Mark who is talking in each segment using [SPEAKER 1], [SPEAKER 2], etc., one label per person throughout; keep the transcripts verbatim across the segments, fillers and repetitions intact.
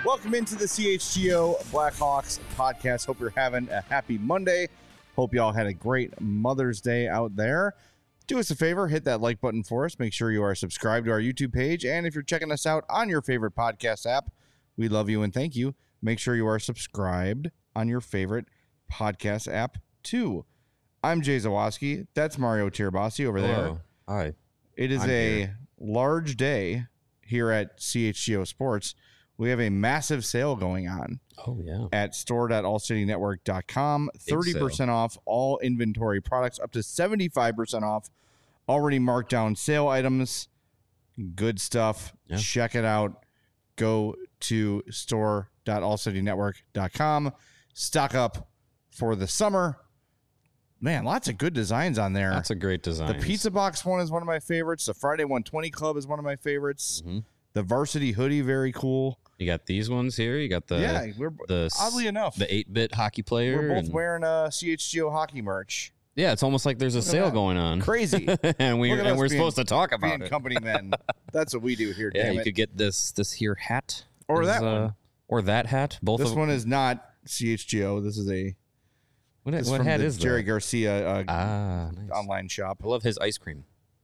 [SPEAKER 1] Welcome into the C H G O Blackhawks podcast. Hope you're having a happy Monday. Hope y'all had a great Mother's Day out there. Do us a favor, hit that like button for us. Make sure you are subscribed to our YouTube page. And if you're checking us out on your favorite podcast app, we love you and thank you. Make sure you are subscribed on your favorite podcast app too. I'm Jay Zawoski. That's Mario Tirabassi over there.
[SPEAKER 2] Hello. Hi.
[SPEAKER 1] It is
[SPEAKER 2] I'm
[SPEAKER 1] a
[SPEAKER 2] here.
[SPEAKER 1] large day here at C H G O Sports. We have a massive sale going on
[SPEAKER 2] Oh, yeah.
[SPEAKER 1] at store dot all city network dot com. thirty percent off all inventory products, up to seventy-five percent off already marked down sale items. Good stuff.
[SPEAKER 2] Yeah.
[SPEAKER 1] Check it out. Go to store dot all city network dot com. Stock up for the summer. Man, lots of good designs on there.
[SPEAKER 2] That's a great design.
[SPEAKER 1] The Pizza Box one is one of my favorites. The Friday one twenty Club is one of my favorites.
[SPEAKER 2] Mm-hmm.
[SPEAKER 1] The Varsity Hoodie, very cool.
[SPEAKER 2] You got these ones here. You got the
[SPEAKER 1] yeah, we're
[SPEAKER 2] the
[SPEAKER 1] oddly enough
[SPEAKER 2] the eight-bit hockey player.
[SPEAKER 1] we're both
[SPEAKER 2] and-
[SPEAKER 1] wearing uh, C H G O hockey merch.
[SPEAKER 2] Yeah, it's almost like there's a
[SPEAKER 1] Look at
[SPEAKER 2] sale
[SPEAKER 1] that.
[SPEAKER 2] going on.
[SPEAKER 1] Crazy.
[SPEAKER 2] and we
[SPEAKER 1] Look at
[SPEAKER 2] and
[SPEAKER 1] us
[SPEAKER 2] we're
[SPEAKER 1] being-
[SPEAKER 2] supposed to talk about
[SPEAKER 1] Being
[SPEAKER 2] it.
[SPEAKER 1] company men. That's what we do here.
[SPEAKER 2] Yeah,
[SPEAKER 1] damn
[SPEAKER 2] you
[SPEAKER 1] it.
[SPEAKER 2] could get this this here hat
[SPEAKER 1] Or
[SPEAKER 2] is,
[SPEAKER 1] that
[SPEAKER 2] uh,
[SPEAKER 1] one.
[SPEAKER 2] or that hat. Both
[SPEAKER 1] This
[SPEAKER 2] of
[SPEAKER 1] one is not C H G O. This is a
[SPEAKER 2] what,
[SPEAKER 1] this is
[SPEAKER 2] what
[SPEAKER 1] from
[SPEAKER 2] hat
[SPEAKER 1] the
[SPEAKER 2] is
[SPEAKER 1] Jerry
[SPEAKER 2] that?
[SPEAKER 1] Garcia uh,
[SPEAKER 2] Ah, nice.
[SPEAKER 1] online shop.
[SPEAKER 2] I love his ice cream.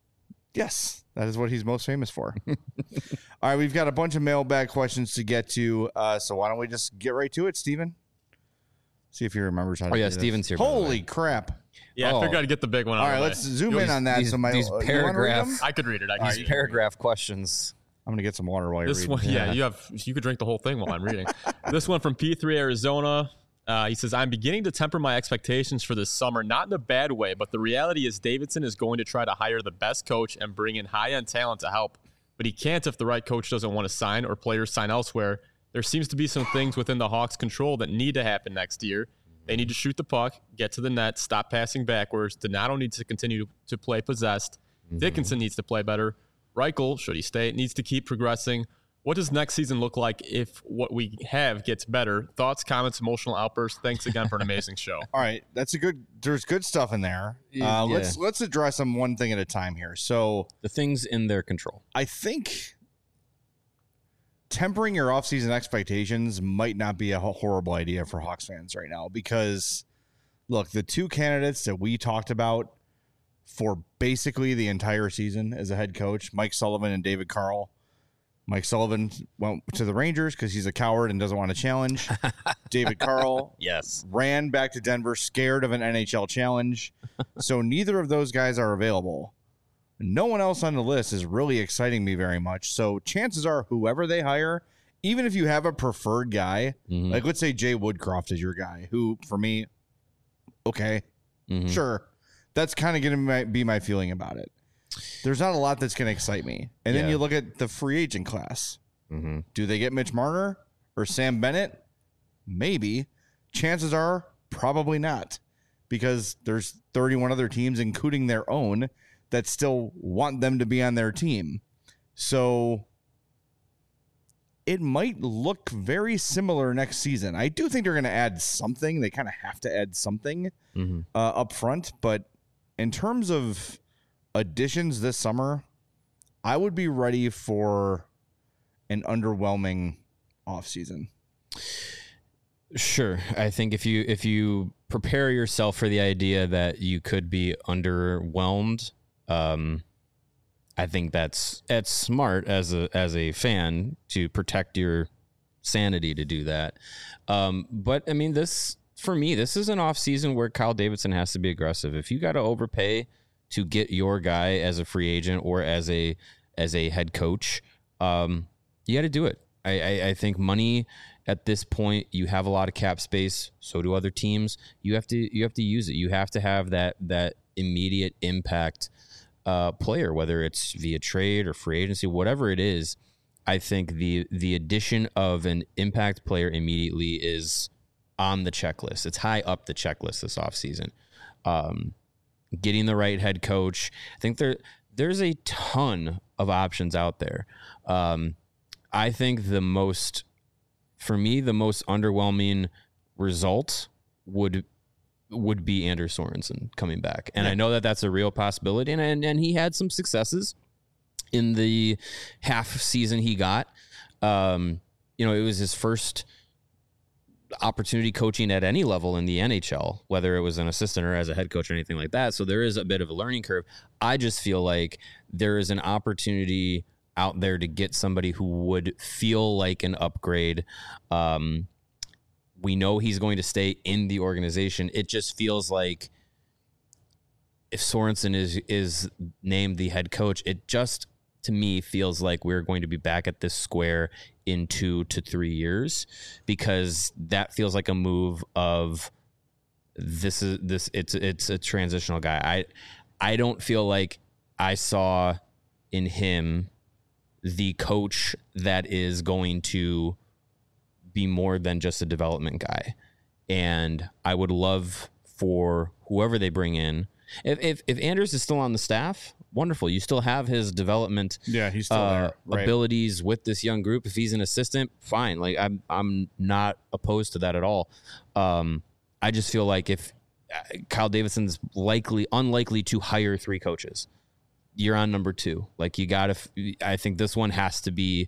[SPEAKER 1] Yes, that is what he's most famous for. All right, we've got a bunch of mailbag questions to get to, uh, so why don't we just get right to it, Steven? See if he remembers how to
[SPEAKER 2] Oh, yeah,
[SPEAKER 1] do this.
[SPEAKER 2] Steven's here, by the
[SPEAKER 1] Holy
[SPEAKER 2] way.
[SPEAKER 1] crap.
[SPEAKER 3] Yeah,
[SPEAKER 2] Oh.
[SPEAKER 3] I figured I'd get the big one.
[SPEAKER 1] All
[SPEAKER 3] out
[SPEAKER 1] right,
[SPEAKER 3] of the
[SPEAKER 1] let's
[SPEAKER 3] way.
[SPEAKER 1] zoom
[SPEAKER 2] These-
[SPEAKER 1] in on that.
[SPEAKER 2] these-
[SPEAKER 1] so my,
[SPEAKER 2] these
[SPEAKER 1] uh, you wanna read
[SPEAKER 2] paragraph-
[SPEAKER 1] them?
[SPEAKER 3] I could read it. I can
[SPEAKER 2] These
[SPEAKER 3] read it.
[SPEAKER 2] paragraph questions.
[SPEAKER 1] I'm going to get some water while you're
[SPEAKER 3] This
[SPEAKER 1] reading.
[SPEAKER 3] one, yeah,
[SPEAKER 2] Yeah.
[SPEAKER 3] you have you could drink the whole thing while I'm reading. This one from P three Arizona. Uh, he says, "I'm beginning to temper my expectations for this summer, not in a bad way, but the reality is Davidson is going to try to hire the best coach and bring in high-end talent to help, but he can't if the right coach doesn't want to sign or players sign elsewhere. There seems to be some things within the Hawks' control that need to happen next year. They need to shoot the puck, get to the net, stop passing backwards. Donato needs to continue to play possessed.
[SPEAKER 2] Mm-hmm.
[SPEAKER 3] Dickinson needs to play better. Reichel, should he stay, needs to keep progressing. What does next season look like if what we have gets better? Thoughts, comments, emotional outbursts. Thanks again for an amazing show."
[SPEAKER 1] All right, that's a good. There's good stuff in there.
[SPEAKER 2] Yeah.
[SPEAKER 1] Uh, let's let's address them one thing at a time here. So
[SPEAKER 2] The things in their control.
[SPEAKER 1] I think tempering your offseason expectations might not be a ho- horrible idea for Hawks fans right now because, look, the two candidates that we talked about for basically the entire season as a head coach, Mike Sullivan and David Carl. Mike Sullivan went to the Rangers because he's a coward and doesn't want to challenge. David Carl
[SPEAKER 2] Yes.
[SPEAKER 1] ran back to Denver scared of an N H L challenge. So neither of those guys are available. No one else on the list is really exciting me very much. So chances are whoever they hire, even if you have a preferred guy,
[SPEAKER 2] Mhm.
[SPEAKER 1] like let's say Jay Woodcroft is your guy, who for me, okay,
[SPEAKER 2] Mhm.
[SPEAKER 1] sure. That's kind of going to be my feeling about it. There's not a lot that's going to excite me. And then
[SPEAKER 2] Yeah.
[SPEAKER 1] you look at the free agent class.
[SPEAKER 2] Mhm.
[SPEAKER 1] Do they get Mitch Marner or Sam Bennett? Maybe. Chances are probably not because there's thirty-one other teams, including their own, that still want them to be on their team. So it might look very similar next season. I do think they're going to add something. They kind of have to add something
[SPEAKER 2] Mhm.
[SPEAKER 1] uh, up front. But in terms of additions this summer, I would be ready for an underwhelming offseason.
[SPEAKER 2] Sure. I think if you if you prepare yourself for the idea that you could be underwhelmed, um, I think that's that's smart as a as a fan to protect your sanity to do that. Um, but I mean, this for me, this is an off season where Kyle Davidson has to be aggressive. If you got to overpay to get your guy as a free agent or as a as a head coach, um, you got to do it. I, I, I think money at this point, you have a lot of cap space. So do other teams. You have to you have to use it. You have to have that that immediate impact uh, player, whether it's via trade or free agency, whatever it is. I think the the addition of an impact player immediately is on the checklist. It's high up the checklist this offseason. Um, getting the right head coach. I think there there's a ton of options out there. Um, I think the most, for me, the most underwhelming result would would be Anders Sorensen coming back. And
[SPEAKER 1] Yeah.
[SPEAKER 2] I know that that's a real possibility. And, and, and he had some successes in the half season he got. Um, you know, it was his first opportunity coaching at any level in the N H L, whether it was an assistant or as a head coach or anything like that. So there is a bit of a learning curve. I just feel like there is an opportunity out there to get somebody who would feel like an upgrade. Um, we know he's going to stay in the organization. It just feels like if Sorensen is is named the head coach, it just, to me, feels like we're going to be back at this square in two to three years, because that feels like a move of this is this it's it's a transitional guy. I I don't feel like I saw in him the coach that is going to be more than just a development guy. And I would love for whoever they bring in, if if, if Anders is still on the staff, wonderful. You still have his development
[SPEAKER 1] Yeah, he's still
[SPEAKER 2] uh,
[SPEAKER 1] there. Right.
[SPEAKER 2] abilities with this young group. If he's an assistant, fine. Like I'm, I'm not opposed to that at all. Um, I just feel like if uh, Kyle Davidson's likely, unlikely to hire three coaches, you're on number two. Like you got to, I think this one has to be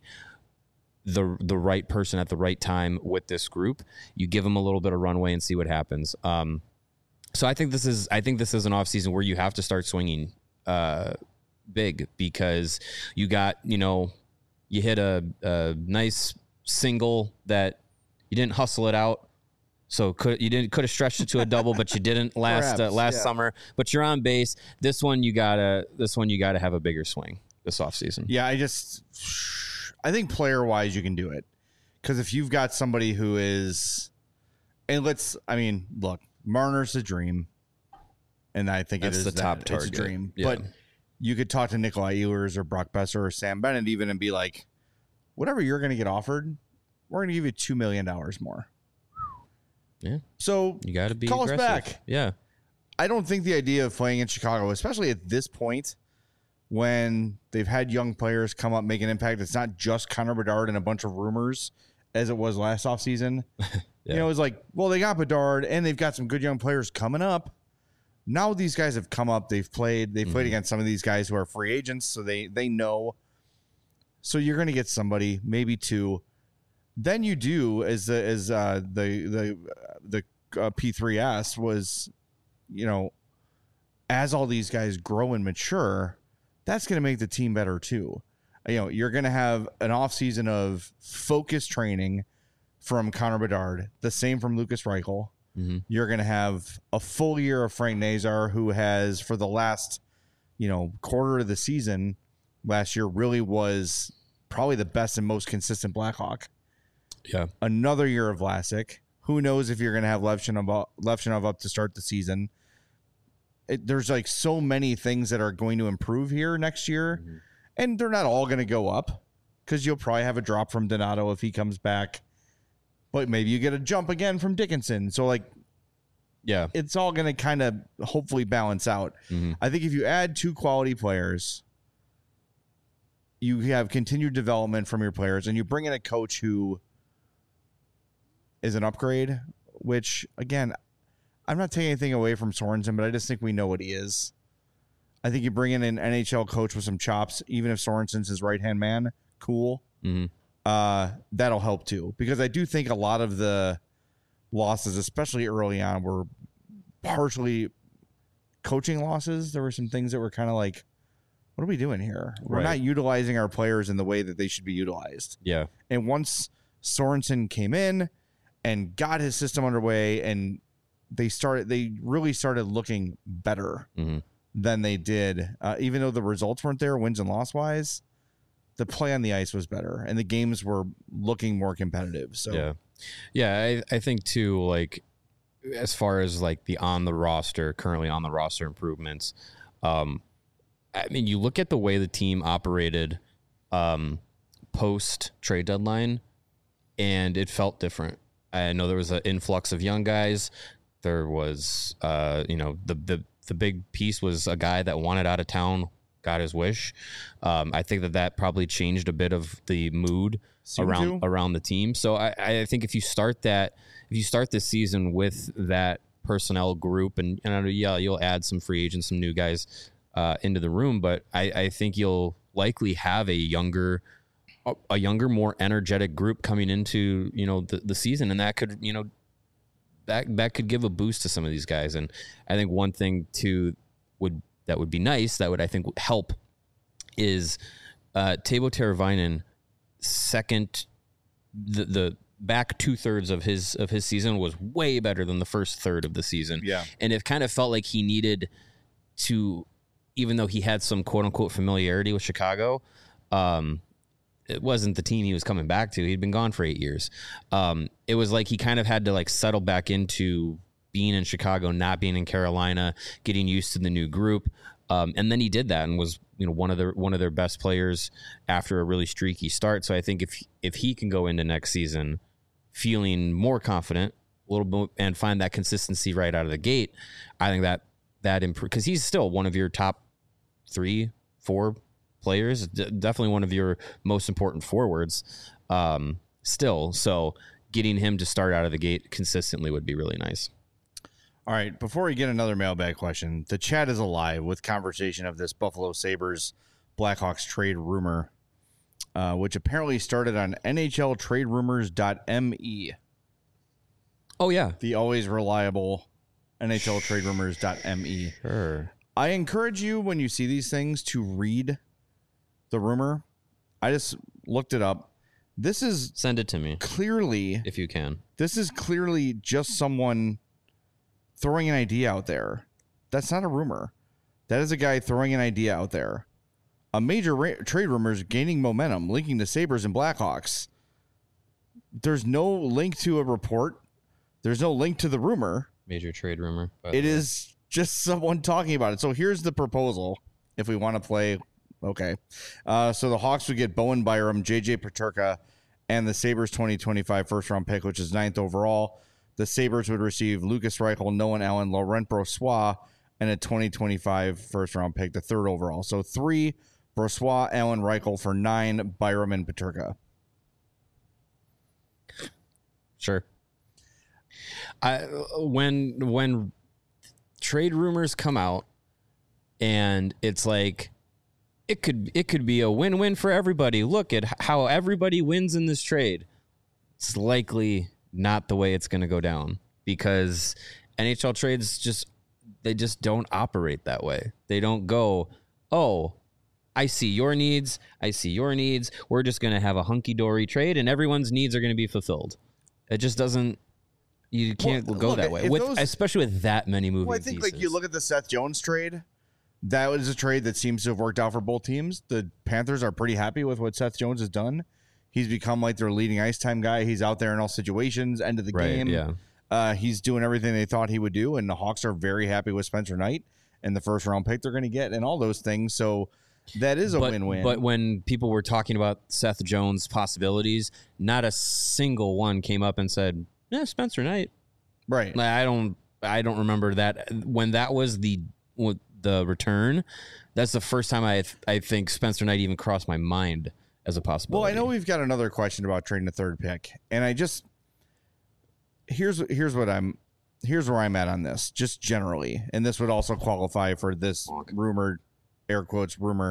[SPEAKER 2] the the right person at the right time with this group. You give them a little bit of runway and see what happens. Um, so I think this is, I think this is an off season where you have to start swinging uh, big, because you got, you know, you hit a, a nice single that you didn't hustle it out. So could you didn't could have stretched it to a double, but you didn't last
[SPEAKER 1] Perhaps,
[SPEAKER 2] uh, last
[SPEAKER 1] yeah.
[SPEAKER 2] summer. But you're on base. This one you gotta this one you gotta have a bigger swing this offseason.
[SPEAKER 1] Yeah, I just I think player wise you can do it, because if you've got somebody who is, and let's I mean look, Marner's a dream, and I think
[SPEAKER 2] That's
[SPEAKER 1] it is
[SPEAKER 2] the
[SPEAKER 1] that.
[SPEAKER 2] top
[SPEAKER 1] It's
[SPEAKER 2] target.
[SPEAKER 1] a dream,
[SPEAKER 2] Yeah.
[SPEAKER 1] but you could talk to Nikolai Ehlers or Brock Besser or Sam Bennett even and be like, whatever you're going to get offered, we're going to give you two million dollars more.
[SPEAKER 2] Yeah.
[SPEAKER 1] So
[SPEAKER 2] You got to be
[SPEAKER 1] Call us
[SPEAKER 2] aggressive.
[SPEAKER 1] back.
[SPEAKER 2] Yeah.
[SPEAKER 1] I don't think the idea of playing in Chicago, especially at this point when they've had young players come up, make an impact, it's not just Connor Bedard and a bunch of rumors as it was last offseason.
[SPEAKER 2] Yeah.
[SPEAKER 1] You know, it's like, well, they got Bedard and they've got some good young players coming up. Now these guys have come up, they've played, they've played
[SPEAKER 2] Mhm.
[SPEAKER 1] against some of these guys who are free agents, so they they know. So you're going to get somebody, maybe two. Then you do, as the as uh, the the the uh, P three S was, you know, as all these guys grow and mature, that's going to make the team better too. You know, you're going to have an offseason of focused training from Connor Bedard, the same from Lucas Reichel.
[SPEAKER 2] Mm-hmm.
[SPEAKER 1] You're going to have a full year of Frank Nazar, who has, for the last, you know, quarter of the season last year, really was probably the best and most consistent Blackhawk.
[SPEAKER 2] Yeah.
[SPEAKER 1] Another year of Vlasic. Who knows if you're going to have Levchinov, Levchinov up to start the season. It, there's like so many things that are going to improve here next year.
[SPEAKER 2] Mm-hmm.
[SPEAKER 1] And they're not all going to go up, because you'll probably have a drop from Donato if he comes back. But maybe you get a jump again from Dickinson. So, like,
[SPEAKER 2] Yeah.
[SPEAKER 1] it's all going to kind of hopefully balance out.
[SPEAKER 2] Mm-hmm.
[SPEAKER 1] I think if you add two quality players, you have continued development from your players, and you bring in a coach who is an upgrade, which, again, I'm not taking anything away from Sorensen, but I just think we know what he is. I think you bring in an N H L coach with some chops, even if Sorensen's his right-hand man, cool.
[SPEAKER 2] Mm-hmm.
[SPEAKER 1] Uh, that'll help too, because I do think a lot of the losses, especially early on, were partially coaching losses. There were some things that were kind of like, what are we doing here? We're
[SPEAKER 2] Right.
[SPEAKER 1] not utilizing our players in the way that they should be utilized.
[SPEAKER 2] Yeah.
[SPEAKER 1] And once Sorensen came in and got his system underway, and they started, they really started looking better
[SPEAKER 2] Mm-hmm.
[SPEAKER 1] than they did, uh, even though the results weren't there, wins and loss wise. The play on the ice was better, and the games were looking more competitive. So
[SPEAKER 2] Yeah. Yeah. I, I think too, like, as far as like the on the roster, currently on the roster improvements, um, I mean, you look at the way the team operated um, post trade deadline, and it felt different. I know there was an influx of young guys. There was, uh, you know, the the the big piece was a guy that wanted out of town, got his wish. Um, I think that that probably changed a bit of the mood
[SPEAKER 1] Seemed
[SPEAKER 2] around
[SPEAKER 1] to.
[SPEAKER 2] around the team. So I, I think if you start that, if you start this season with that personnel group, and, and I know, yeah, you'll add some free agents, some new guys uh, into the room, but I, I think you'll likely have a younger a, a younger, more energetic group coming into, you know, the, the season. And that could, you know, that, that could give a boost to some of these guys. And I think one thing too would, that would be nice, that would, I think, help is uh, Teuvo Teravainen, second, the, the back two thirds of his, of his season was way better than the first third of the season.
[SPEAKER 1] Yeah.
[SPEAKER 2] And it kind of felt like he needed to, even though he had some quote unquote familiarity with Chicago, um, it wasn't the team he was coming back to. He'd been gone for eight years. Um, it was like he kind of had to like settle back into being in Chicago, not being in Carolina, getting used to the new group. Um, and then he did that and was, you know, one of their, one of their best players after a really streaky start. So I think if, if he can go into next season feeling more confident a little bit and find that consistency right out of the gate, I think that, that improve, because he's still one of your top three, four players, d- definitely one of your most important forwards um, still. So getting him to start out of the gate consistently would be really nice.
[SPEAKER 1] All right, before we get another mailbag question, the chat is alive with conversation of this Buffalo Sabres Blackhawks trade rumor, uh, which apparently started on N H L trade rumors dot M E.
[SPEAKER 2] Oh, yeah.
[SPEAKER 1] The always reliable N H L trade rumors dot M E.
[SPEAKER 2] Sure.
[SPEAKER 1] I encourage you, when you see these things, to read the rumor. I just looked it up. This is
[SPEAKER 2] Send it to me
[SPEAKER 1] clearly,
[SPEAKER 2] if you can.
[SPEAKER 1] this is clearly just someone throwing an idea out there. That's not a rumor. That is a guy throwing an idea out there. A major ra- trade rumor is gaining momentum, linking the Sabres and Blackhawks. There's no link to a report. There's no link to the rumor.
[SPEAKER 2] Major trade rumor.
[SPEAKER 1] It is just someone talking about it. So here's the proposal. If we want to play, okay. Uh, so the Hawks would get Bowen Byram, J J Peterka, and the Sabres twenty twenty-five first round pick, which is ninth overall. The Sabres would receive Lucas Reichel, Noah Allen, Laurent Brossoit, and a twenty twenty-five first round pick, the third overall. So three, Brossoit, Allen, Reichel for nine, Byram, and Peterka.
[SPEAKER 2] Sure. I when when trade rumors come out and it's like it could it could be a win-win for everybody. Look at how everybody wins in this trade. It's likely not the way it's going to go down, because N H L trades just they just don't operate that way. They don't go, "Oh, I see your needs, I see your needs. We're just going to have a hunky-dory trade and everyone's needs are going to be fulfilled." It just doesn't You can't
[SPEAKER 1] well,
[SPEAKER 2] go
[SPEAKER 1] look,
[SPEAKER 2] that way,
[SPEAKER 1] if
[SPEAKER 2] with
[SPEAKER 1] those,
[SPEAKER 2] especially with that many moving
[SPEAKER 1] well, I think
[SPEAKER 2] pieces.
[SPEAKER 1] like you look at the Seth Jones trade. That was a trade that seems to have worked out for both teams. The Panthers are pretty happy with what Seth Jones has done. He's become like their leading ice time guy. He's out there in all situations, end of the
[SPEAKER 2] right,
[SPEAKER 1] game.
[SPEAKER 2] Yeah.
[SPEAKER 1] Uh, he's doing everything they thought he would do, and the Hawks are very happy with Spencer Knight and the first round pick they're going to get and all those things. So that is a
[SPEAKER 2] but,
[SPEAKER 1] win-win.
[SPEAKER 2] But when people were talking about Seth Jones' possibilities, not a single one came up and said, "Yeah, Spencer Knight."
[SPEAKER 1] Right.
[SPEAKER 2] Like, I don't. I don't remember that when that was the the return. That's the first time I I think Spencer Knight even crossed my mind as a possibility.
[SPEAKER 1] Well, I know we've got another question about trading a third pick, and I just here's here's what I'm here's where I'm at on this, just generally, and this would also qualify for this rumored, air quotes, rumor.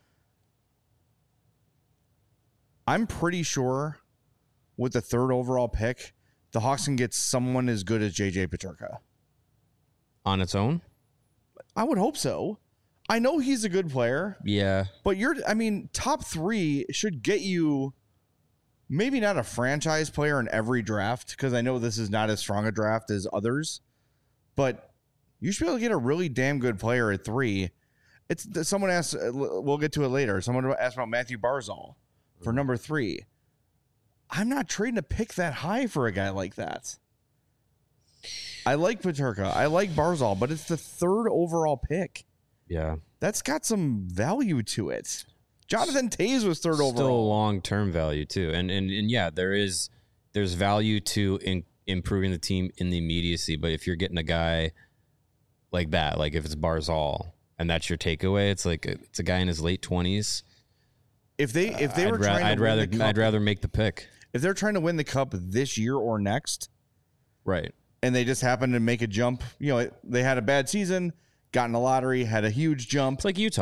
[SPEAKER 1] I'm pretty sure with the third overall pick, the Hawks can get someone as good as J J Peterka.
[SPEAKER 2] On its own?
[SPEAKER 1] I would hope so. I know he's a good player.
[SPEAKER 2] Yeah.
[SPEAKER 1] But you're, I mean, top three should get you maybe not a franchise player in every draft, because I know this is not as strong a draft as others, but you should be able to get a really damn good player at three. It's someone asked, we'll get to it later. Someone asked about Matthew Barzal for number three. I'm not trading a pick that high for a guy like that. I like Peterka. I like Barzal, but it's the third overall pick.
[SPEAKER 2] Yeah.
[SPEAKER 1] That's got some value to it. Jonathan Toews was third
[SPEAKER 2] Still
[SPEAKER 1] overall.
[SPEAKER 2] long-term value too. And, and, and yeah, there is, there's value to in, improving the team in the immediacy. But if you're getting a guy like that, like if it's Barzal and that's your takeaway, it's like, it's a guy in his late twenties.
[SPEAKER 1] If they, if they
[SPEAKER 2] I'd
[SPEAKER 1] were
[SPEAKER 2] ra-
[SPEAKER 1] trying to
[SPEAKER 2] I'd
[SPEAKER 1] win
[SPEAKER 2] rather,
[SPEAKER 1] the cup,
[SPEAKER 2] I'd rather make the pick.
[SPEAKER 1] if they're trying to win the cup this year or next,
[SPEAKER 2] Right.
[SPEAKER 1] and they just happen to make a jump, you know, they had a bad season, got in the lottery, had a huge jump.
[SPEAKER 2] It's like Utah.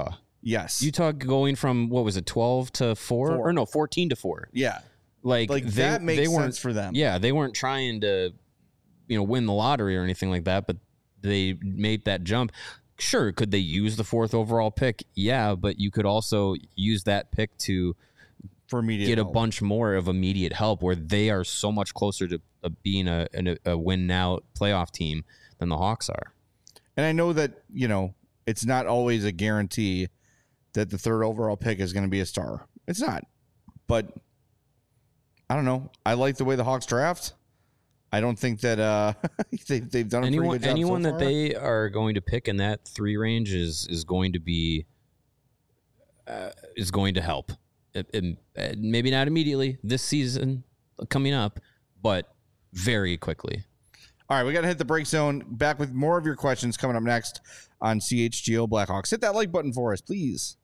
[SPEAKER 1] Yes.
[SPEAKER 2] Utah going from, what was it, twelve to four?
[SPEAKER 1] Four.
[SPEAKER 2] Or no, fourteen to four.
[SPEAKER 1] Yeah.
[SPEAKER 2] Like,
[SPEAKER 1] Like
[SPEAKER 2] they,
[SPEAKER 1] that makes
[SPEAKER 2] they weren't,
[SPEAKER 1] sense for them.
[SPEAKER 2] Yeah, they weren't trying to, you know, win the lottery or anything like that, but they made that jump. Sure, could they use the fourth overall pick? Yeah, but you could also use that pick to
[SPEAKER 1] for immediate
[SPEAKER 2] get
[SPEAKER 1] help.
[SPEAKER 2] a bunch more of immediate help, where they are so much closer to uh, being a, a, a win now playoff team than the Hawks are.
[SPEAKER 1] And I know that, you know, it's not always a guarantee that the third overall pick is going to be a star. It's not. But I don't know. I like the way the Hawks draft. I don't think that uh, they, they've done a
[SPEAKER 2] Anyone,
[SPEAKER 1] pretty good job
[SPEAKER 2] anyone
[SPEAKER 1] so
[SPEAKER 2] that
[SPEAKER 1] far.
[SPEAKER 2] they are going to pick in that three range is is going to be uh, is going to help. It, it, uh, maybe not immediately this season coming up, but very quickly.
[SPEAKER 1] All right, we got to hit the break zone. Back with more of your questions coming up next on C H G O Blackhawks. Hit that like button for us, please.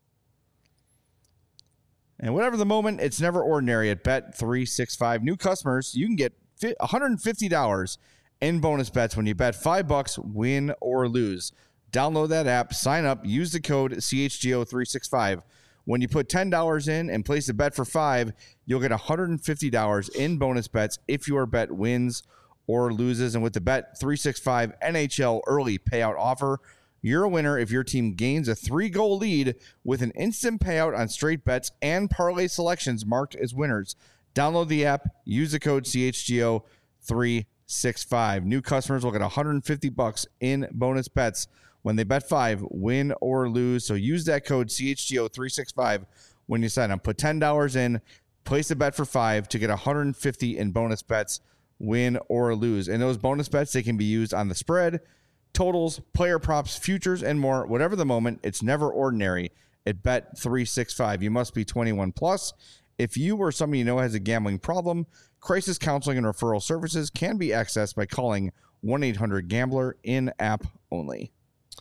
[SPEAKER 1] And whatever the moment, it's never ordinary at Bet three sixty-five. New customers, you can get one hundred fifty dollars in bonus bets when you bet five bucks, win or lose. Download that app, sign up, use the code C H G O three sixty-five. When you put ten dollars in and place a bet for five, you'll get one hundred fifty dollars in bonus bets if your bet wins or loses. And with the Bet three sixty-five N H L early payout offer, you're a winner if your team gains a three-goal lead with an instant payout on straight bets and parlay selections marked as winners. Download the app, use the code C H G O three sixty-five. New customers will get one hundred fifty bucks in bonus bets when they bet five, win or lose. So use that code C H G O three sixty-five when you sign up. Put ten dollars in, place a bet for five to get one hundred fifty in bonus bets, win or lose. And those bonus bets, they can be used on the spread, totals, player props, futures, and more. Whatever the moment, it's never ordinary at Bet three sixty-five. You must be twenty-one plus. If you or somebody you know has a gambling problem, crisis counseling and referral services can be accessed by calling one eight hundred gambler in-app only.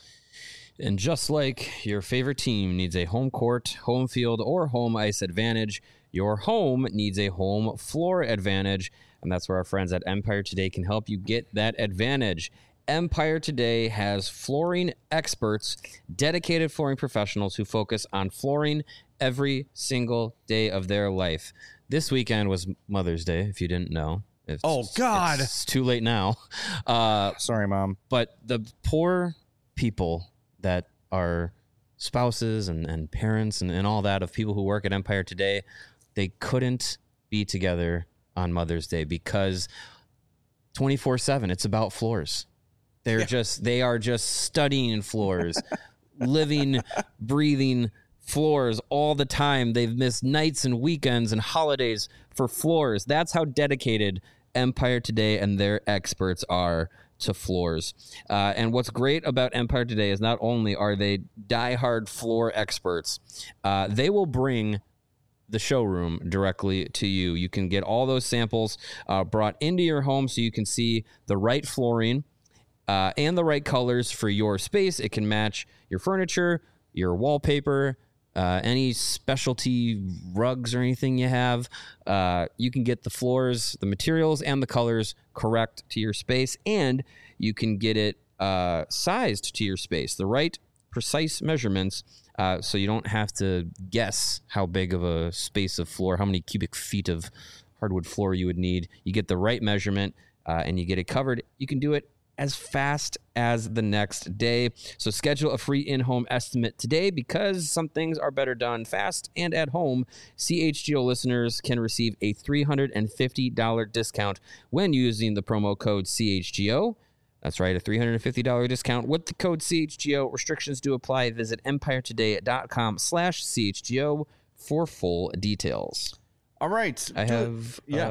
[SPEAKER 2] And just like your favorite team needs a home court, home field, or home ice advantage, your home needs a home floor advantage. And that's where our friends at Empire Today can help you get that advantage. Empire Today has flooring experts, dedicated flooring professionals who focus on flooring every single day of their life. This weekend was Mother's Day, if you didn't know. It's,
[SPEAKER 1] Oh, God.
[SPEAKER 2] It's too late now. Uh,
[SPEAKER 1] Sorry, Mom.
[SPEAKER 2] but the poor people that are spouses and, and parents and, and all that of people who work at Empire Today, they couldn't be together on Mother's Day because twenty-four seven, it's about floors. They're
[SPEAKER 1] Yeah.
[SPEAKER 2] just, they are just studying floors, living, breathing floors all the time. They've missed nights and weekends and holidays for floors. That's how dedicated Empire Today and their experts are to floors. Uh, and what's great about Empire Today is not only are they diehard floor experts, uh, they will bring the showroom directly to you. You can get all those samples uh, brought into your home so you can see the right flooring uh, and the right colors for your space. It can match your furniture, your wallpaper, uh, any specialty rugs or anything you have. Uh, you can get the floors, the materials, and the colors correct to your space, and you can get it uh, sized to your space, the right precise measurements, uh, so you don't have to guess how big of a space of floor, how many cubic feet of hardwood floor you would need. You get the right measurement, uh, and you get it covered. You can do it as fast as the next day. So schedule a free in-home estimate today, because some things are better done fast and at home. C H G O listeners can receive a three hundred fifty dollars discount when using the promo code C H G O. That's right, a three hundred fifty dollars discount with the code C H G O. Restrictions do apply. Visit empiretoday.com slash CHGO for full details.
[SPEAKER 1] All right.
[SPEAKER 2] I
[SPEAKER 1] Do it.
[SPEAKER 2] have
[SPEAKER 1] Yeah.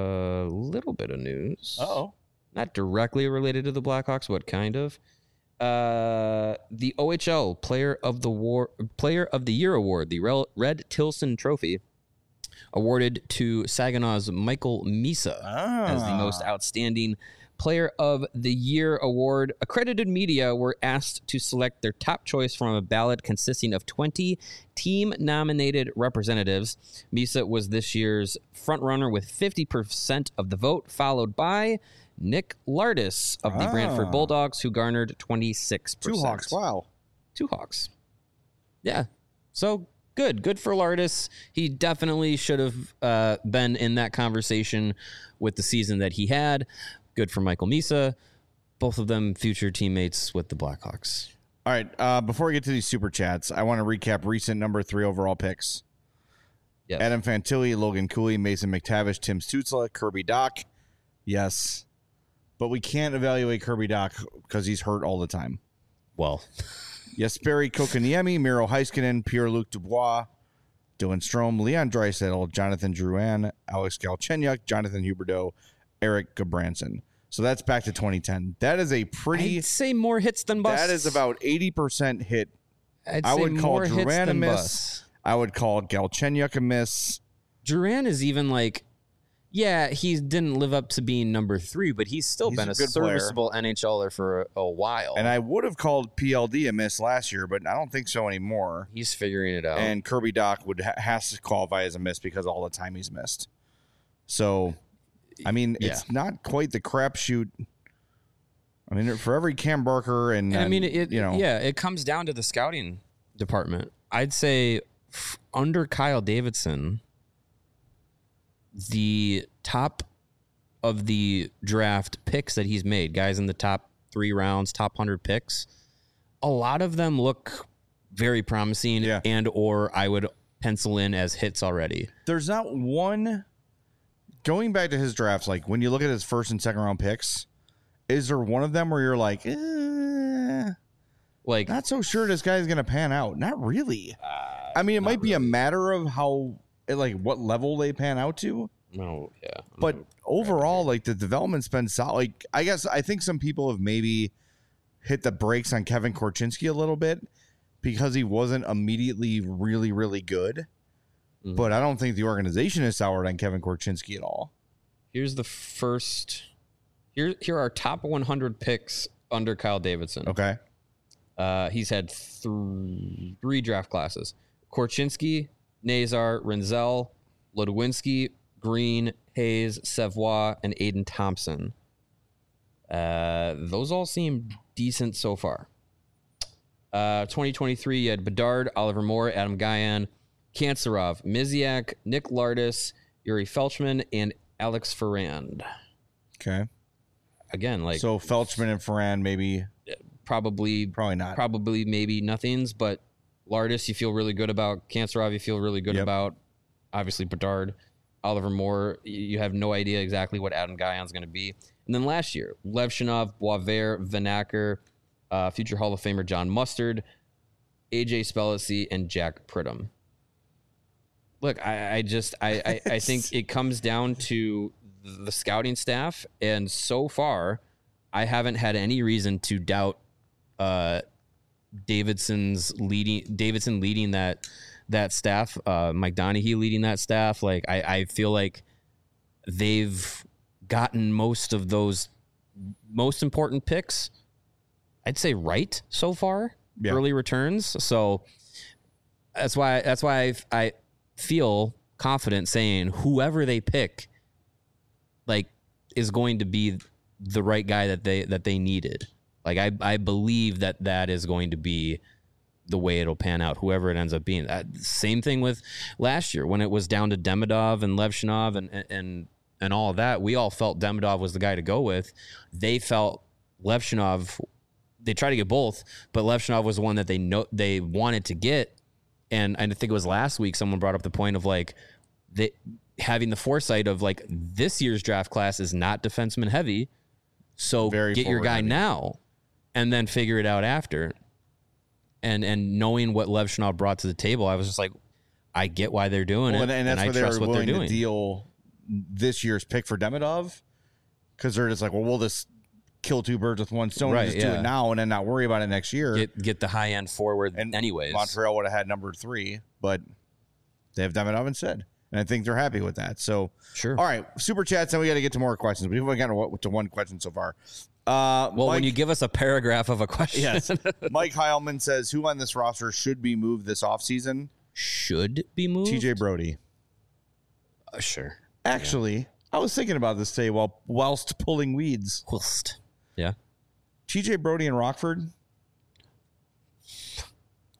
[SPEAKER 2] a little bit of news.
[SPEAKER 1] Uh-oh.
[SPEAKER 2] Not directly related to the Blackhawks, but kind of. Uh, the O H L Player of the War, Player of the Year award, the Rel- Red Tilson Trophy, awarded to Saginaw's Michael Misa as the most outstanding Player of the Year award. Accredited media were asked to select their top choice from a ballot consisting of twenty team-nominated representatives. Misa was this year's frontrunner with fifty percent of the vote, followed by Nick Lardis of the
[SPEAKER 1] Ah.
[SPEAKER 2] Brantford Bulldogs, who garnered twenty-six percent.
[SPEAKER 1] Two Hawks. Wow.
[SPEAKER 2] Two Hawks. Yeah. So good. Good for Lardis. He definitely should have uh, been in that conversation with the season that he had. Good for Michael Misa. Both of them future teammates with the Blackhawks.
[SPEAKER 1] All right. Uh, before we get to these super chats, I want to recap recent number three overall picks.
[SPEAKER 2] Yes.
[SPEAKER 1] Adam Fantilli, Logan Cooley, Mason McTavish, Tim Stützle, Kirby Dach. Yes. But we can't evaluate Kirby Dach because he's hurt all the time.
[SPEAKER 2] Well,
[SPEAKER 1] Jesperi Kokoniemi, Miro Heiskanen, Pierre-Luc Dubois, Dylan Strome, Leon Draisaitl, Jonathan Drouin, Alex Galchenyuk, Jonathan Huberdeau, Eric Gabranson. So that's back to twenty ten. That is a pretty...
[SPEAKER 2] I'd say more hits than busts.
[SPEAKER 1] That is about eighty percent hit.
[SPEAKER 2] I'd
[SPEAKER 1] I
[SPEAKER 2] say
[SPEAKER 1] would call
[SPEAKER 2] more hits
[SPEAKER 1] Drouin a
[SPEAKER 2] than
[SPEAKER 1] miss.
[SPEAKER 2] busts.
[SPEAKER 1] I would call Galchenyuk a miss.
[SPEAKER 2] Duran is even like, yeah, he didn't live up to being number three, but he's still
[SPEAKER 1] He's
[SPEAKER 2] been
[SPEAKER 1] a
[SPEAKER 2] a,
[SPEAKER 1] good player.
[SPEAKER 2] serviceable NHLer for a, a while.
[SPEAKER 1] And I would have called P L D a miss last year, but I don't think so anymore.
[SPEAKER 2] he's figuring it out.
[SPEAKER 1] And Kirby Dach would ha- has to qualify as a miss because of all the time he's missed. So, I mean,
[SPEAKER 2] Yeah.
[SPEAKER 1] it's not quite the crapshoot. I mean, for every Cam Barker and,
[SPEAKER 2] And I mean,
[SPEAKER 1] and,
[SPEAKER 2] it,
[SPEAKER 1] you know,
[SPEAKER 2] yeah, it comes down to the scouting department. I'd say f- under Kyle Davidson, the top of the draft picks that he's made, guys in the top three rounds, top one hundred picks, a lot of them look very promising
[SPEAKER 1] Yeah.
[SPEAKER 2] and or I would pencil in as hits already.
[SPEAKER 1] there's not one. Going back to his drafts, like when you look at his first and second round picks, is there one of them where you're like, eh,
[SPEAKER 2] Like,
[SPEAKER 1] not so sure this guy's going to pan out? Not really.
[SPEAKER 2] uh,
[SPEAKER 1] I mean, it
[SPEAKER 2] not
[SPEAKER 1] might be a
[SPEAKER 2] really.
[SPEAKER 1] matter of how, like, what level they pan out to.
[SPEAKER 2] No, yeah.
[SPEAKER 1] But
[SPEAKER 2] Mm.
[SPEAKER 1] overall, like, the development's been solid. Like, I guess I think some people have maybe hit the brakes on Kevin Korchinski a little bit because he wasn't immediately really, really good.
[SPEAKER 2] Mhm.
[SPEAKER 1] But I don't think the organization is soured on Kevin Korchinski at all.
[SPEAKER 2] Here's the first. Here, here are top one hundred picks under Kyle Davidson.
[SPEAKER 1] Okay.
[SPEAKER 2] Uh, he's had th- three draft classes: Korchinski, Nazar, Renzel, Ludwinski, Green, Hayes, Savoie, and Aiden Thompson. Uh, those all seem decent so far. Uh, twenty twenty-three, you had Bedard, Oliver Moore, Adam Guyan, Kantsarov, Miziak, Nick Lardis, Yuri Felchman, and Alex Ferrand.
[SPEAKER 1] Okay.
[SPEAKER 2] Again, like
[SPEAKER 1] so Felchman and Ferrand, maybe,
[SPEAKER 2] probably,
[SPEAKER 1] probably not.
[SPEAKER 2] probably maybe nothings, but Lardis, you feel really good about. Kantsarov, you feel really good
[SPEAKER 1] Yep.
[SPEAKER 2] about. Obviously, Bedard, Oliver Moore, y- you have no idea exactly what Adam Guyan's going to be. And then last year, Levshinov, Boisvert, Vanacker, uh, future Hall of Famer John Mustard, A J Spellacy, and Jack Pridham. Look, I, I just I, I, I think it comes down to the scouting staff, and so far, I haven't had any reason to doubt uh, Davidson's leading Davidson leading that that staff, uh, Mike Donaghy leading that staff. Like I, I feel like they've gotten most of those most important picks, I'd say, right so far.
[SPEAKER 1] Yeah.
[SPEAKER 2] Early returns. So that's why that's why I, I feel confident saying whoever they pick, like, is going to be the right guy that they that they needed. Like I I believe that that is going to be the way it'll pan out, whoever it ends up being. Uh, same thing with last year when it was down to Demidov and Levshinov and and and all of that. We all felt Demidov was the guy to go with. They felt Levshinov. They tried to get both, but Levshinov was the one that they know they wanted to get. And I think it was last week someone brought up the point of like they having the foresight of like this year's draft class is not defenseman heavy, so
[SPEAKER 1] Very
[SPEAKER 2] get your
[SPEAKER 1] forward
[SPEAKER 2] guy
[SPEAKER 1] heavy.
[SPEAKER 2] now, and then figure it out after. And and knowing what Levshinov brought to the table, I was just like, I get why they're doing
[SPEAKER 1] Well,
[SPEAKER 2] it,
[SPEAKER 1] and, and that's
[SPEAKER 2] I
[SPEAKER 1] why they
[SPEAKER 2] trust
[SPEAKER 1] were
[SPEAKER 2] what they're
[SPEAKER 1] willing
[SPEAKER 2] doing.
[SPEAKER 1] to deal this year's pick for Demidov, because they're just like, well, we'll just kill two birds with one stone
[SPEAKER 2] Right,
[SPEAKER 1] and just do
[SPEAKER 2] yeah.
[SPEAKER 1] it now and then not worry about it next year.
[SPEAKER 2] Get get the high end forward,
[SPEAKER 1] and
[SPEAKER 2] anyways.
[SPEAKER 1] Montreal would have had number three, but they have Demidov instead, and I think they're happy with that. So,
[SPEAKER 2] Sure.
[SPEAKER 1] all right, super chats, and we got to get to more questions. We've only gotten to one question so far. Uh,
[SPEAKER 2] Well,
[SPEAKER 1] Mike,
[SPEAKER 2] when you give us a paragraph of a question,
[SPEAKER 1] yes, Mike Heilman says, who on this roster should be moved this offseason?
[SPEAKER 2] should be moved.
[SPEAKER 1] T J Brody.
[SPEAKER 2] Uh, sure.
[SPEAKER 1] Actually, I was thinking about this today while whilst pulling weeds.
[SPEAKER 2] Whilst. Yeah.
[SPEAKER 1] T J Brody and Rockford.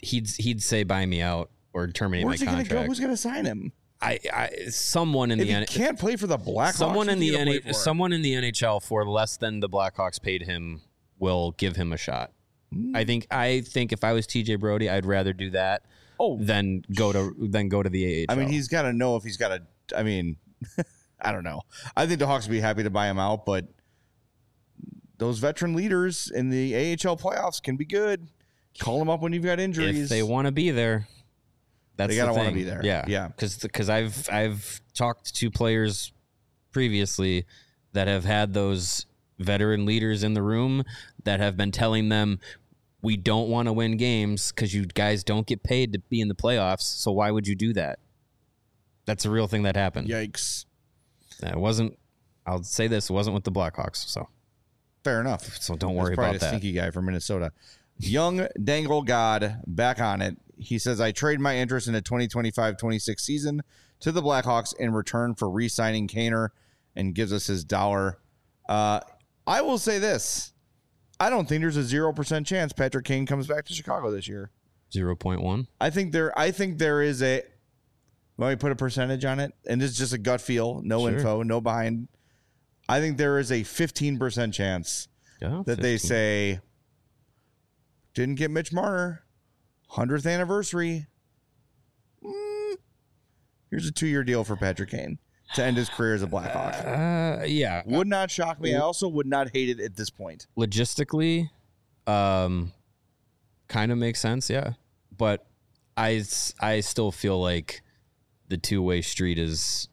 [SPEAKER 2] he'd he'd say buy me out or terminate
[SPEAKER 1] Where's
[SPEAKER 2] my
[SPEAKER 1] he going to
[SPEAKER 2] contract.
[SPEAKER 1] go? Who's going to sign him?
[SPEAKER 2] I, I someone in
[SPEAKER 1] If
[SPEAKER 2] the
[SPEAKER 1] he
[SPEAKER 2] N-
[SPEAKER 1] can't play for the Blackhawks,
[SPEAKER 2] someone in
[SPEAKER 1] who's he
[SPEAKER 2] the
[SPEAKER 1] gonna
[SPEAKER 2] N-
[SPEAKER 1] play for?
[SPEAKER 2] someone in the N H L for less than the Blackhawks paid him will give him a shot.
[SPEAKER 1] Hmm.
[SPEAKER 2] I think I think if I was T J Brody, I'd rather do that
[SPEAKER 1] Oh,
[SPEAKER 2] than go to than go to the A H L.
[SPEAKER 1] I mean, he's got to know if he's got to. I mean, I don't know. I think the Hawks would be happy to buy him out, but those veteran leaders in the A H L playoffs can be good. Call them up when you've got injuries.
[SPEAKER 2] if they want to be there. That's
[SPEAKER 1] They
[SPEAKER 2] the
[SPEAKER 1] gotta wanna
[SPEAKER 2] thing.
[SPEAKER 1] be there.
[SPEAKER 2] Yeah,
[SPEAKER 1] Yeah.
[SPEAKER 2] Because because I've I've talked to players previously that have had those veteran leaders in the room that have been telling them, we don't want to win games because you guys don't get paid to be in the playoffs. So why would you do that? That's a real thing that happened.
[SPEAKER 1] Yikes.
[SPEAKER 2] It wasn't. I'll say this: it wasn't with the Blackhawks. So
[SPEAKER 1] Fair enough.
[SPEAKER 2] so don't
[SPEAKER 1] That's
[SPEAKER 2] worry
[SPEAKER 1] probably
[SPEAKER 2] about
[SPEAKER 1] a
[SPEAKER 2] that.
[SPEAKER 1] sneaky guy from Minnesota. Young Dangle God back on it. He says, I trade my interest in the twenty twenty-five twenty-six season to the Blackhawks in return for re-signing Kaner, and gives us his dollar. Uh, I will say this. I don't think there's a zero percent chance Patrick Kane comes back to Chicago this year.
[SPEAKER 2] Zero point one.
[SPEAKER 1] I think there I think there is a let me put a percentage on it, and this is just a gut feel, no
[SPEAKER 2] Sure.
[SPEAKER 1] info, no behind. I think there is a fifteen percent chance
[SPEAKER 2] Yeah,
[SPEAKER 1] that they
[SPEAKER 2] fifteen.
[SPEAKER 1] say didn't get Mitch Marner, hundredth anniversary. Mm, here's a two-year deal for Patrick Kane to end his career as a Blackhawk.
[SPEAKER 2] Uh, yeah.
[SPEAKER 1] Would not shock me. I also would not hate it at this point.
[SPEAKER 2] Logistically, um, kind of makes sense, yeah. But I, s- I still feel like the two-way street is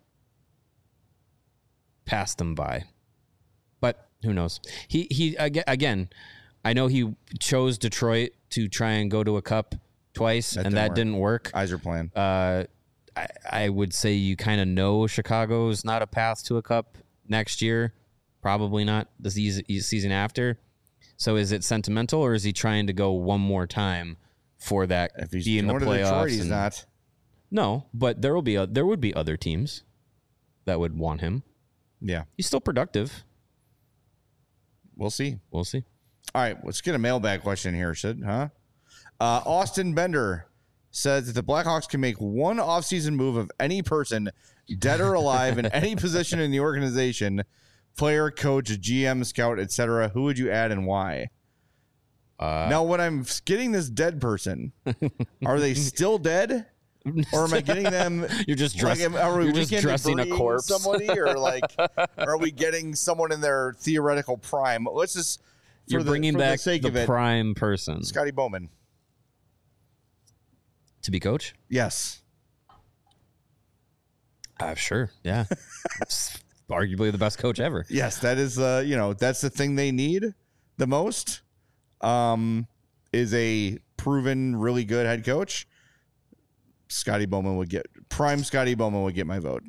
[SPEAKER 2] passed them by. But who knows? He he aga- again. I know he chose Detroit to try and go to a cup twice,
[SPEAKER 1] That
[SPEAKER 2] and
[SPEAKER 1] didn't
[SPEAKER 2] that
[SPEAKER 1] work.
[SPEAKER 2] didn't work.
[SPEAKER 1] Eyes are playing.
[SPEAKER 2] Uh, I, I would say you kind of know Chicago's not a path to a cup next year. Probably not the season, season after. So is it sentimental, or is he trying to go one more time for that?
[SPEAKER 1] If he's
[SPEAKER 2] be in the
[SPEAKER 1] going to
[SPEAKER 2] playoffs?
[SPEAKER 1] Detroit, he's
[SPEAKER 2] and-
[SPEAKER 1] not.
[SPEAKER 2] No, but there will be a, there would be other teams that would want him.
[SPEAKER 1] Yeah,
[SPEAKER 2] He's still productive.
[SPEAKER 1] we'll see.
[SPEAKER 2] We'll see.
[SPEAKER 1] All right, let's get a mailbag question here, Sid, huh? Uh, Austin Bender says that the Blackhawks can make one offseason move of any person, dead or alive, in any position in the organization, player, coach, G M, scout, et cetera. Who would you add and why?
[SPEAKER 2] Uh,
[SPEAKER 1] Now, when I'm getting this dead person, are they still dead? Or am I getting them?
[SPEAKER 2] You're just
[SPEAKER 1] Like,
[SPEAKER 2] dressing.
[SPEAKER 1] am- are we
[SPEAKER 2] you're just
[SPEAKER 1] weekend
[SPEAKER 2] dressing a
[SPEAKER 1] debris
[SPEAKER 2] corpse.
[SPEAKER 1] somebody, or like, are we getting someone in their theoretical prime? Let's just for
[SPEAKER 2] You're
[SPEAKER 1] the,
[SPEAKER 2] bringing
[SPEAKER 1] for
[SPEAKER 2] back
[SPEAKER 1] the sake
[SPEAKER 2] the
[SPEAKER 1] of it,
[SPEAKER 2] prime person
[SPEAKER 1] Scotty Bowman.
[SPEAKER 2] to be coach.
[SPEAKER 1] Yes.
[SPEAKER 2] Uh, sure. Yeah. It's arguably the best coach ever.
[SPEAKER 1] Yes, that is uh, you know, that's the thing they need the most. Um is a proven really good head coach. Scotty Bowman would get prime Scotty Bowman would get my vote.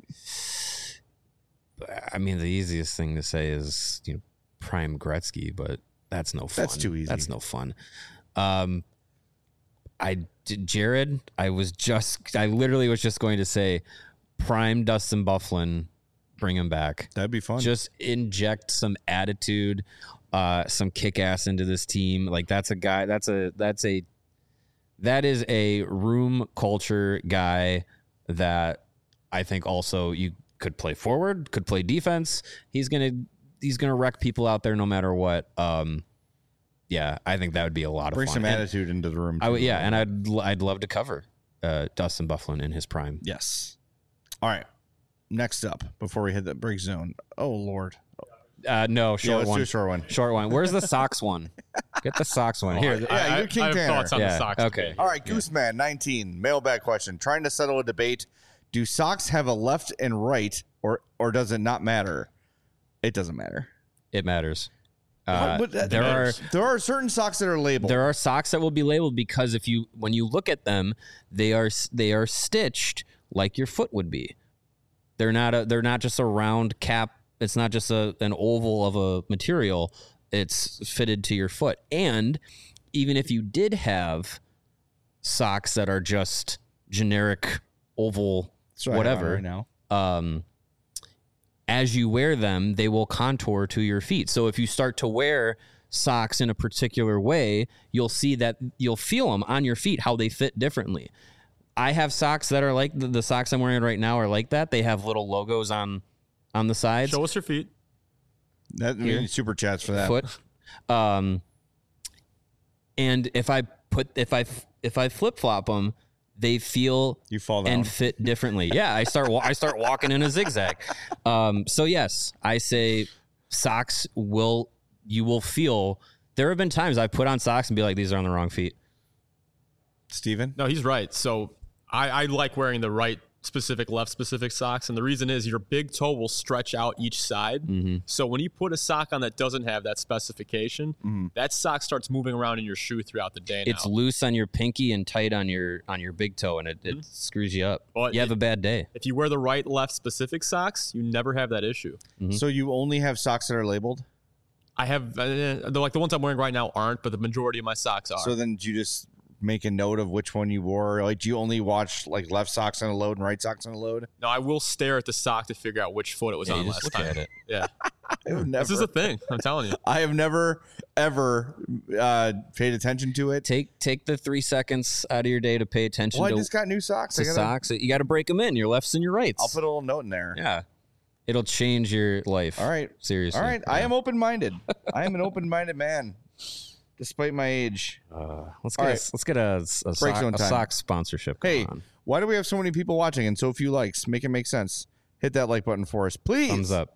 [SPEAKER 2] I mean, the easiest thing to say is, you know, prime Gretzky, but that's no fun.
[SPEAKER 1] That's too easy.
[SPEAKER 2] That's no fun. Um, I did Jared. I was just, I literally was just going to say, prime Dustin Byfuglien, bring him back.
[SPEAKER 1] That'd be fun.
[SPEAKER 2] Just inject some attitude, uh, some kick ass into this team. Like that's a guy. That's a that's a that is a room culture guy that I think also you could play forward, could play defense. He's gonna he's gonna wreck people out there no matter what. Um, yeah, I think that would be a lot
[SPEAKER 1] Bring
[SPEAKER 2] of fun.
[SPEAKER 1] some
[SPEAKER 2] And
[SPEAKER 1] attitude into the room.
[SPEAKER 2] I would,
[SPEAKER 1] too.
[SPEAKER 2] yeah, and I'd l- I'd love to cover uh, Dustin Byfuglien in his prime.
[SPEAKER 1] Yes. All right. Next up, before we hit the break zone. Oh Lord.
[SPEAKER 2] Uh, no,
[SPEAKER 1] Yeah,
[SPEAKER 2] short
[SPEAKER 1] let's
[SPEAKER 2] one.
[SPEAKER 1] do a short one.
[SPEAKER 2] Short one. Where's the socks one? Get the socks one. Here.
[SPEAKER 1] Yeah,
[SPEAKER 3] I,
[SPEAKER 1] you're King
[SPEAKER 3] I have
[SPEAKER 1] Tanner.
[SPEAKER 3] thoughts on
[SPEAKER 2] Yeah,
[SPEAKER 3] the Sox.
[SPEAKER 2] okay.
[SPEAKER 3] today.
[SPEAKER 1] All right, Gooseman nineteen, mailbag question. Trying to settle a debate. Do socks have a left and right, or or does it not matter? It doesn't matter.
[SPEAKER 2] It matters. Uh,
[SPEAKER 1] But that-
[SPEAKER 2] there are
[SPEAKER 1] there are certain socks that are labeled.
[SPEAKER 2] there are socks that will be labeled because if you when you look at them, they are they are stitched like your foot would be. They're not a they're not just a round cap. It's not just a an oval of a material. It's fitted to your foot. And even if you did have socks that are just generic oval
[SPEAKER 1] That's what I have on
[SPEAKER 2] whatever
[SPEAKER 1] right now.
[SPEAKER 2] um, as you wear them, they will contour to your feet. So if you start to wear socks in a particular way, you'll see that you'll feel them on your feet, how they fit differently. I have socks that are like the, the socks I'm wearing right now are like that. They have little logos on on the sides.
[SPEAKER 3] Show us your feet.
[SPEAKER 1] That means super chats for that.
[SPEAKER 2] Foot. Um, and if I put if I if I flip flop them, they feel
[SPEAKER 1] You fall down.
[SPEAKER 2] and fit differently. Yeah, I start wa- I start walking in a zigzag. Um, so yes, I say socks will you will feel. There have been times I've put on socks and be like, these are on the wrong feet.
[SPEAKER 1] Steven?
[SPEAKER 3] No, he's right. So I, I like wearing the right specific, left specific socks. And the reason is your big toe will stretch out each side.
[SPEAKER 2] Mm-hmm.
[SPEAKER 3] So when you put a sock on that doesn't have that specification,
[SPEAKER 1] Mm-hmm.
[SPEAKER 3] that sock starts moving around in your shoe throughout the day
[SPEAKER 2] It's
[SPEAKER 3] now.
[SPEAKER 2] loose on your pinky and tight on your on your big toe, and it, it screws you up.
[SPEAKER 3] Well,
[SPEAKER 2] you have
[SPEAKER 3] it-
[SPEAKER 2] a bad day.
[SPEAKER 3] If you wear the right, left specific socks, you never have that issue.
[SPEAKER 2] Mhm.
[SPEAKER 1] So you only have socks that are labeled?
[SPEAKER 3] I have, uh, they're like the ones I'm wearing right now aren't, but the majority of my socks are.
[SPEAKER 1] So then do you just make a note of which one you wore? Like, do you only watch like left socks on a load and right socks on a load?
[SPEAKER 3] no, I will stare at the sock to figure out which foot it was
[SPEAKER 2] Yeah,
[SPEAKER 3] on
[SPEAKER 2] you just
[SPEAKER 3] last
[SPEAKER 2] look
[SPEAKER 3] time.
[SPEAKER 2] at it.
[SPEAKER 3] Yeah,
[SPEAKER 1] I've never,
[SPEAKER 3] this is a thing. I'm telling you.
[SPEAKER 1] I have never ever uh, paid attention to it.
[SPEAKER 2] Take take the three seconds out of your day to pay attention
[SPEAKER 1] Well, I
[SPEAKER 2] to,
[SPEAKER 1] just got new socks.
[SPEAKER 2] to
[SPEAKER 1] I gotta,
[SPEAKER 2] socks. You got to break them in. Your lefts and your rights.
[SPEAKER 1] I'll put a little note in there.
[SPEAKER 2] yeah, it'll change your life.
[SPEAKER 1] All right.
[SPEAKER 2] seriously.
[SPEAKER 1] All right. I
[SPEAKER 2] Yeah.
[SPEAKER 1] am open minded. I am an open minded man, despite my age.
[SPEAKER 2] Uh, let's
[SPEAKER 1] All
[SPEAKER 2] get
[SPEAKER 1] right.
[SPEAKER 2] a, let's get a, a,
[SPEAKER 1] Break
[SPEAKER 2] sock,
[SPEAKER 1] zone
[SPEAKER 2] a
[SPEAKER 1] time.
[SPEAKER 2] sock sponsorship. Going
[SPEAKER 1] Hey,
[SPEAKER 2] on.
[SPEAKER 1] why do we have so many people watching and so few likes? Make it make sense. Hit that like button for us, please.
[SPEAKER 2] Thumbs up.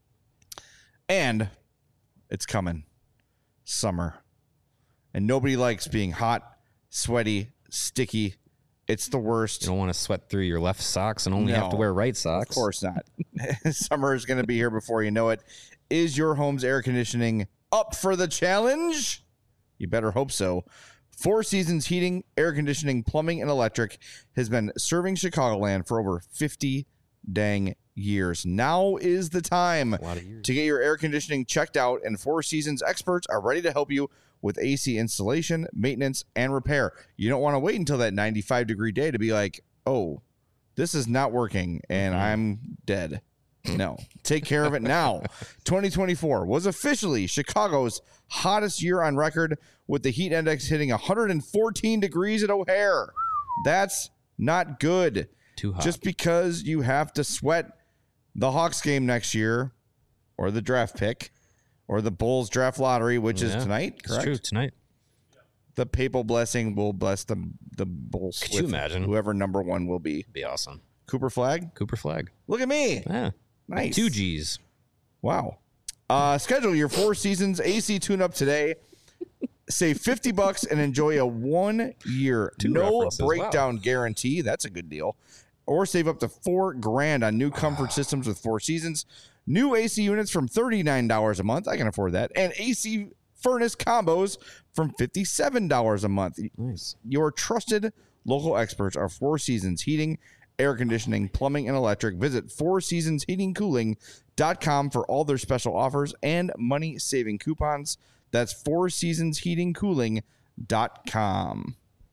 [SPEAKER 1] And it's coming. Summer. And nobody likes being hot, sweaty, sticky. It's the worst.
[SPEAKER 2] You don't want to sweat through your left socks and only have to
[SPEAKER 1] No,
[SPEAKER 2] wear right socks.
[SPEAKER 1] Of course not. Summer is going to be here before you know it. Is your home's air conditioning up for the challenge? You better hope so. Four Seasons Heating, Air Conditioning, Plumbing, and Electric has been serving Chicagoland for over fifty dang years. Now is the time
[SPEAKER 2] A lot of years.
[SPEAKER 1] to get your air conditioning checked out, and Four Seasons experts are ready to help you with A C installation, maintenance, and repair. You don't want to wait until that ninety-five degree day to be like, oh, this is not working and
[SPEAKER 2] Mhm.
[SPEAKER 1] I'm dead. No, take care of it now. twenty twenty-four was officially Chicago's hottest year on record, with the heat index hitting one hundred fourteen degrees at O'Hare. That's not good.
[SPEAKER 2] Too hot.
[SPEAKER 1] Just because you have to sweat the Hawks game next year, or the draft pick, or the Bulls draft lottery, which
[SPEAKER 2] Yeah,
[SPEAKER 1] is tonight,
[SPEAKER 2] it's
[SPEAKER 1] correct?
[SPEAKER 2] true tonight.
[SPEAKER 1] The papal blessing will bless the the Bulls.
[SPEAKER 2] Could you
[SPEAKER 1] with
[SPEAKER 2] imagine?
[SPEAKER 1] whoever number one will be?
[SPEAKER 2] Be awesome.
[SPEAKER 1] Cooper Flag.
[SPEAKER 2] Cooper Flag.
[SPEAKER 1] Look at me.
[SPEAKER 2] Yeah.
[SPEAKER 1] Nice.
[SPEAKER 2] Two G's.
[SPEAKER 1] Wow. Uh, schedule your Four Seasons A C tune-up today. Save fifty bucks and enjoy a one-year
[SPEAKER 2] Two
[SPEAKER 1] no
[SPEAKER 2] references.
[SPEAKER 1] breakdown guarantee. That's a good deal. Or save up to four grand on new
[SPEAKER 2] Ah.
[SPEAKER 1] comfort systems with Four Seasons. New A C units from thirty-nine dollars a month. I can afford that. And A C furnace combos from fifty-seven dollars a month.
[SPEAKER 2] Nice.
[SPEAKER 1] Your trusted local experts are Four Seasons Heating, Air Conditioning, Plumbing, and Electric. Visit four seasons heating cooling dot com for all their special offers and money-saving coupons. That's four seasons heating cooling dot com.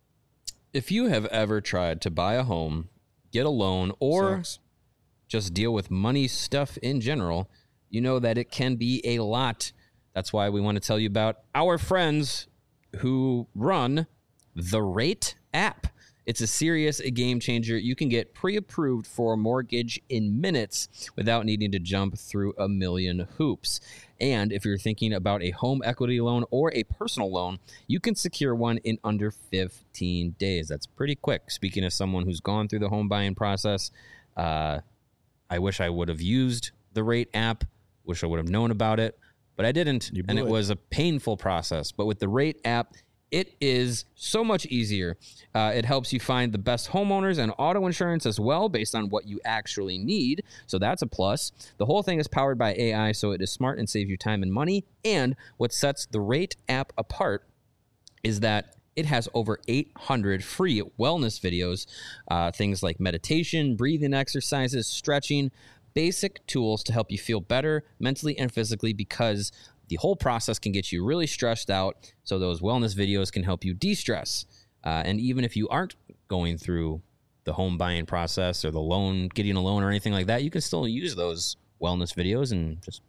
[SPEAKER 2] If you have ever tried to buy a home, get a loan, or
[SPEAKER 1] Sucks.
[SPEAKER 2] just deal with money stuff in general, you know that it can be a lot. That's why we want to tell you about our friends who run the Rate app. It's a serious game changer. You can get pre-approved for a mortgage in minutes without needing to jump through a million hoops. And if you're thinking about a home equity loan or a personal loan, you can secure one in under fifteen days. That's pretty quick. Speaking of someone who's gone through the home buying process, uh, I wish I would have used the Rate app. Wish I would have known about it, but I didn't.
[SPEAKER 1] You
[SPEAKER 2] And
[SPEAKER 1] blew
[SPEAKER 2] it
[SPEAKER 1] it.
[SPEAKER 2] was a painful process. But with the Rate app, it is so much easier. Uh, it helps you find the best homeowners and auto insurance as well based on what you actually need. So that's a plus. The whole thing is powered by A I, so it is smart and saves you time and money. And what sets the Rate app apart is that it has over eight hundred free wellness videos, uh, things like meditation, breathing exercises, stretching, basic tools to help you feel better mentally and physically, because the whole process can get you really stressed out. So those wellness videos can help you de-stress. Uh, and even if you aren't going through the home buying process or the loan, getting a loan or anything like that, you can still use those wellness videos and just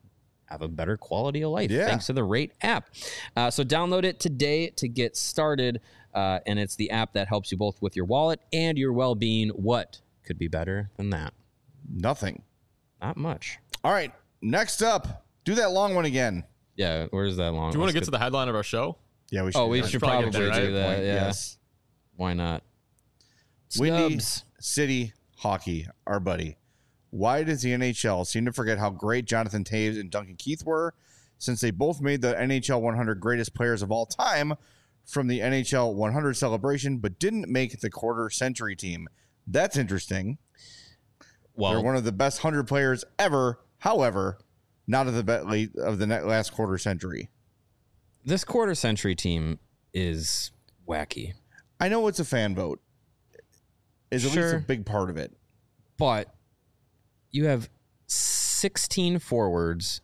[SPEAKER 2] have a better quality of life
[SPEAKER 1] Yeah.
[SPEAKER 2] thanks to the Rate app. Uh, so download it today to get started. Uh, and it's the app that helps you both with your wallet and your well-being. What could be better than that?
[SPEAKER 1] Nothing.
[SPEAKER 2] Not much.
[SPEAKER 1] All right. Next up, do that long one again.
[SPEAKER 2] Yeah, where's that long?
[SPEAKER 3] Do you want
[SPEAKER 2] Let's
[SPEAKER 3] to get to the headline of our show?
[SPEAKER 1] Yeah, we should.
[SPEAKER 2] Oh,
[SPEAKER 1] do
[SPEAKER 2] we
[SPEAKER 1] that.
[SPEAKER 2] should
[SPEAKER 3] Probably
[SPEAKER 2] probably
[SPEAKER 3] get there,
[SPEAKER 2] do
[SPEAKER 3] right?
[SPEAKER 2] that.
[SPEAKER 1] Point,
[SPEAKER 2] Yeah.
[SPEAKER 1] Yes.
[SPEAKER 2] Why not?
[SPEAKER 1] Windy
[SPEAKER 2] Scubs.
[SPEAKER 1] City Hockey, our buddy. Why does the N H L seem to forget how great Jonathan Toews and Duncan Keith were, since they both made the N H L one hundred greatest players of all time from the N H L one hundred celebration, but didn't make the quarter century team? That's interesting.
[SPEAKER 2] Well,
[SPEAKER 1] They're one of the best one hundred players ever. However, not of the be- late of the net last quarter century.
[SPEAKER 2] this quarter century team is wacky,
[SPEAKER 1] I know it's a fan vote. Is at least
[SPEAKER 2] Sure.
[SPEAKER 1] a big part of it.
[SPEAKER 2] but you have sixteen forwards,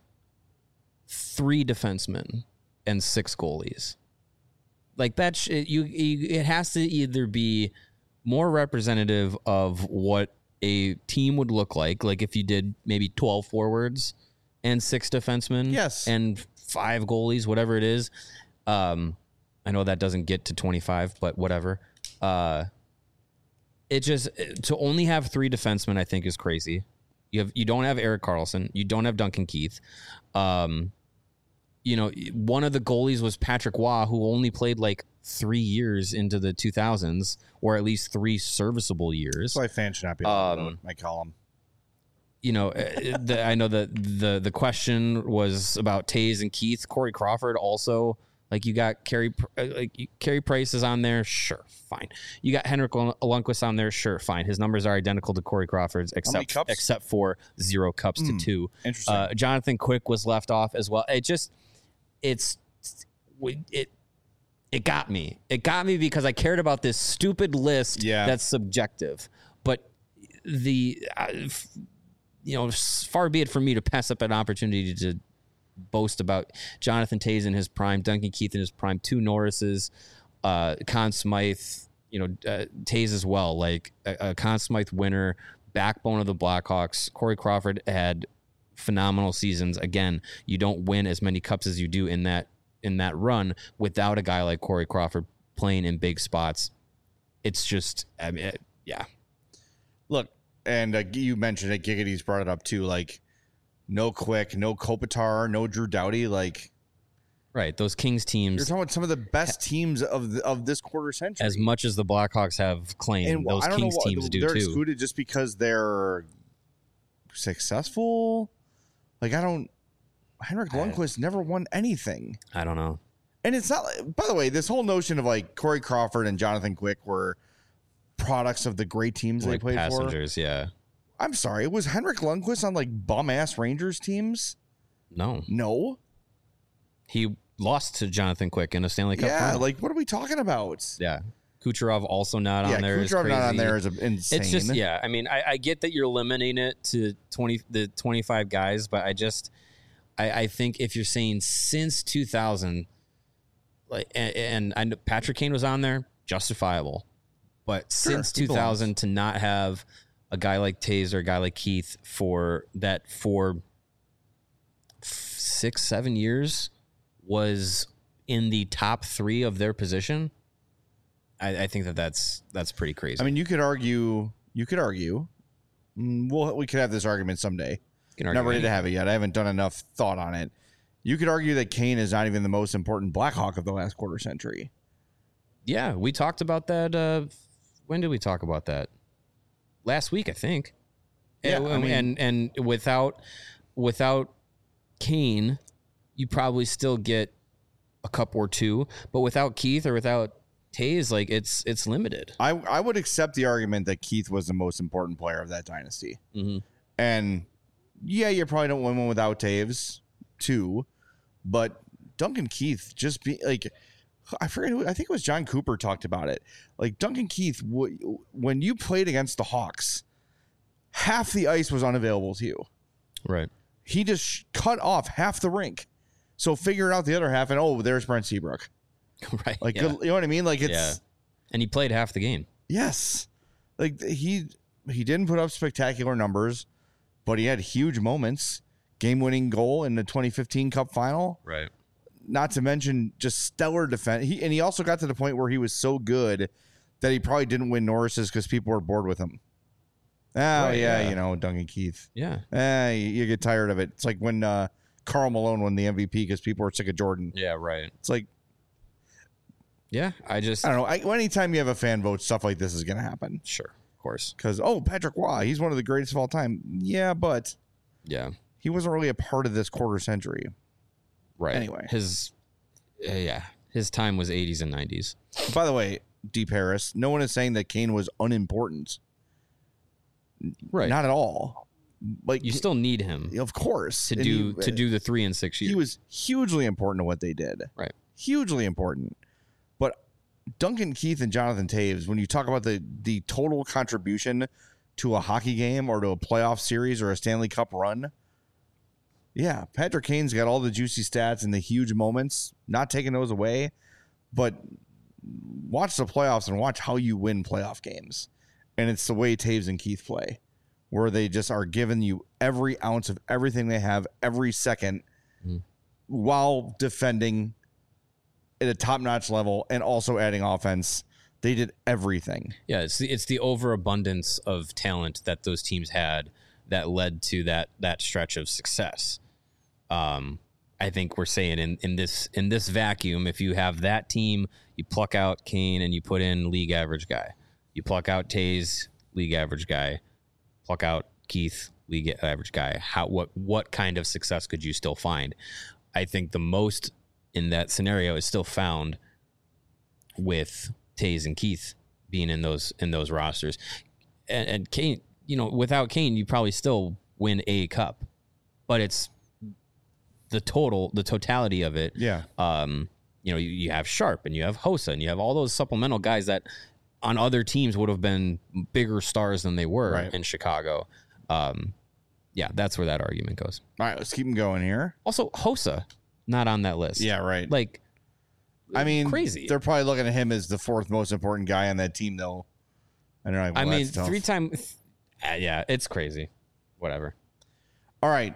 [SPEAKER 2] three defensemen, and six goalies. Like that, sh- you, you it has to either be more representative of what a team would look like, like if you did maybe twelve forwards and six defensemen,
[SPEAKER 1] Yes.
[SPEAKER 2] and five goalies, whatever it is. Um, I know that doesn't get to twenty-five, but whatever. Uh, it just to only have three defensemen, I think, is crazy. You have you don't have Erik Karlsson, you don't have Duncan Keith. Um, you know, one of the goalies was Patrick Waugh, who only played like three years into the two thousands, or at least three serviceable years.
[SPEAKER 1] That's why fans should not be allowed to
[SPEAKER 2] Um,
[SPEAKER 1] vote, my column.
[SPEAKER 2] You know, uh, the, I know that the the question was about Toews and Keith. Corey Crawford also, like you got Carey, uh, like you- Carey Price is on there, sure, fine. You got Henrik Lundqvist on there, sure, fine. His numbers are identical to Corey Crawford's,
[SPEAKER 1] many
[SPEAKER 2] except
[SPEAKER 1] cups?
[SPEAKER 2] except for zero cups
[SPEAKER 1] Hmm.
[SPEAKER 2] to two.
[SPEAKER 1] Interesting.
[SPEAKER 2] Uh, Jonathan Quick was left off as well. It just, it's, it, it got me. It got me because I cared about this stupid list
[SPEAKER 1] Yeah.
[SPEAKER 2] that's subjective. But the, uh, f- you know, s- far be it from me to pass up an opportunity to boast about Jonathan Toews in his prime, Duncan Keith in his prime, two Norrises, uh, Conn Smythe, you know, uh, Toews as well, like a, a Conn Smythe winner, backbone of the Blackhawks. Corey Crawford had phenomenal seasons. Again, you don't win as many cups as you do in that in that run without a guy like Corey Crawford playing in big spots. It's just, I mean, it, yeah.
[SPEAKER 1] Look, and uh, you mentioned it. Giggity's brought it up too. Like, no Quick, no Kopitar, no Drew Doughty. Like,
[SPEAKER 2] Right. Those Kings
[SPEAKER 1] you're
[SPEAKER 2] teams,
[SPEAKER 1] talking about some of the best teams of the, of this quarter century.
[SPEAKER 2] as much as the Blackhawks have claimed,
[SPEAKER 1] and
[SPEAKER 2] those
[SPEAKER 1] I don't
[SPEAKER 2] Kings
[SPEAKER 1] know what,
[SPEAKER 2] teams do
[SPEAKER 1] they're
[SPEAKER 2] too.
[SPEAKER 1] excluded just because they're successful. Like, I don't. Henrik
[SPEAKER 2] I-
[SPEAKER 1] Lundqvist never won anything.
[SPEAKER 2] I don't know.
[SPEAKER 1] And it's not, like- by the way, this whole notion of like Corey Crawford and Jonathan Quick were products of the great teams
[SPEAKER 2] Like
[SPEAKER 1] they played for.
[SPEAKER 2] passengers, yeah.
[SPEAKER 1] I'm sorry, was Henrik Lundqvist on like bum ass Rangers teams?
[SPEAKER 2] No.
[SPEAKER 1] No.
[SPEAKER 2] He lost to Jonathan Quick in a Stanley Cup
[SPEAKER 1] Yeah,
[SPEAKER 2] final.
[SPEAKER 1] like what are we talking about?
[SPEAKER 2] yeah. Kucherov also not
[SPEAKER 1] yeah,
[SPEAKER 2] on there. is
[SPEAKER 1] Kucherov not on
[SPEAKER 2] crazy.
[SPEAKER 1] there is a- insane.
[SPEAKER 2] It's just, yeah. I mean, I, I get that you're limiting it to twenty, the twenty-five guys, but I just, I, I think if you're saying since two thousand, like, and, and I know Patrick Kane was on there, justifiable, but
[SPEAKER 1] Sure,
[SPEAKER 2] since
[SPEAKER 1] he
[SPEAKER 2] two thousand to not have a guy like Toews or a guy like Keith for that for f- six, seven years was in the top three of their position. I, I think that that's that's pretty crazy.
[SPEAKER 1] I mean, you could argue, you could argue, mm, we'll, we could have this argument someday.
[SPEAKER 2] You can argue
[SPEAKER 1] Not ready to
[SPEAKER 2] anything.
[SPEAKER 1] have it yet. I haven't done enough thought on it. You could argue that Kane is not even the most important Blackhawk of the last quarter century.
[SPEAKER 2] Yeah, we talked about that. Uh, when did we talk about that? Last week, I think.
[SPEAKER 1] Yeah,
[SPEAKER 2] and,
[SPEAKER 1] I mean-
[SPEAKER 2] and and without without Kane, you probably still get a cup or two, but without Keith or without Toews, like it's it's limited.
[SPEAKER 1] I, I would accept the argument that Keith was the most important player of that dynasty.
[SPEAKER 2] Mm-hmm.
[SPEAKER 1] And yeah, you probably don't win one without Taves, too. But Duncan Keith just be like, I forget who, I think it was John Cooper talked about it. Like Duncan Keith, w- when you played against the Hawks, half the ice was unavailable to you.
[SPEAKER 2] Right.
[SPEAKER 1] He just sh- cut off half the rink. So figure out the other half, and oh, there's Brent Seabrook.
[SPEAKER 2] Right.
[SPEAKER 1] Like,
[SPEAKER 2] yeah.
[SPEAKER 1] good, you know what I mean? Like, it's,
[SPEAKER 2] Yeah. And he played half the game.
[SPEAKER 1] yes. Like, he he didn't put up spectacular numbers, but he had huge moments. game-winning goal in the twenty fifteen Cup final.
[SPEAKER 2] Right.
[SPEAKER 1] Not to mention just stellar defense. He, and he also got to the point where he was so good that he probably didn't win Norris's because people were bored with him. Oh,
[SPEAKER 2] Right,
[SPEAKER 1] yeah,
[SPEAKER 2] yeah.
[SPEAKER 1] you know, Duncan Keith.
[SPEAKER 2] Yeah.
[SPEAKER 1] Eh, you, you get tired of it. It's like when uh, Karl Malone won the M V P because people were sick of Jordan.
[SPEAKER 2] Yeah. Right.
[SPEAKER 1] It's like,
[SPEAKER 2] Yeah. I just
[SPEAKER 1] I don't know. I, anytime you have a fan vote, stuff like this is going to happen.
[SPEAKER 2] sure, of course.
[SPEAKER 1] Because, oh, Patrick Waugh, he's one of the greatest of all time. Yeah, but
[SPEAKER 2] Yeah.
[SPEAKER 1] he wasn't really a part of this quarter century.
[SPEAKER 2] Right.
[SPEAKER 1] Anyway.
[SPEAKER 2] his uh, yeah, his time was eighties and nineties.
[SPEAKER 1] By the way, Deep Harris, no one is saying that Kane was unimportant.
[SPEAKER 2] Right.
[SPEAKER 1] Not at all. Like
[SPEAKER 2] You still need him
[SPEAKER 1] of course,
[SPEAKER 2] to
[SPEAKER 1] And
[SPEAKER 2] do
[SPEAKER 1] he,
[SPEAKER 2] to do the three and six years.
[SPEAKER 1] He was hugely important to what they did.
[SPEAKER 2] Right.
[SPEAKER 1] Hugely important. But Duncan Keith and Jonathan Taves, when you talk about the the total contribution to a hockey game or to a playoff series or a Stanley Cup run, yeah, Patrick Kane's got all the juicy stats and the huge moments, not taking those away, but watch the playoffs and watch how you win playoff games. And it's the way Taves and Keith play, where they just are giving you every ounce of everything they have every second
[SPEAKER 2] Mhm.
[SPEAKER 1] while defending at a top-notch level and also adding offense. They did everything.
[SPEAKER 2] Yeah, it's the, it's the overabundance of talent that those teams had that led to that that stretch of success. Um, I think we're saying in, in this in this vacuum, if you have that team, you pluck out Kane and you put in league average guy. You pluck out Tays, league average guy. Pluck out Keith, league average guy. How what what kind of success could you still find? I think the most in that scenario is still found with Tays and Keith being in those in those rosters. And, and Kane, you know, without Kane, you probably still win a cup, but it's the total, the totality of it.
[SPEAKER 1] Yeah.
[SPEAKER 2] Um, you know, you, you have Sharp and you have Hossa and you have all those supplemental guys that on other teams would have been bigger stars than they were
[SPEAKER 1] Right.
[SPEAKER 2] in Chicago. Um, yeah, that's where that argument goes.
[SPEAKER 1] All right, let's keep them going here.
[SPEAKER 2] Also, Hossa, not on that list.
[SPEAKER 1] Yeah, right.
[SPEAKER 2] Like,
[SPEAKER 1] I mean,
[SPEAKER 2] crazy.
[SPEAKER 1] They're probably looking at him as the fourth most important guy on that team, though. I don't know. Well,
[SPEAKER 2] I mean,
[SPEAKER 1] that's tough.
[SPEAKER 2] three times. Uh, yeah, it's crazy. Whatever.
[SPEAKER 1] All right,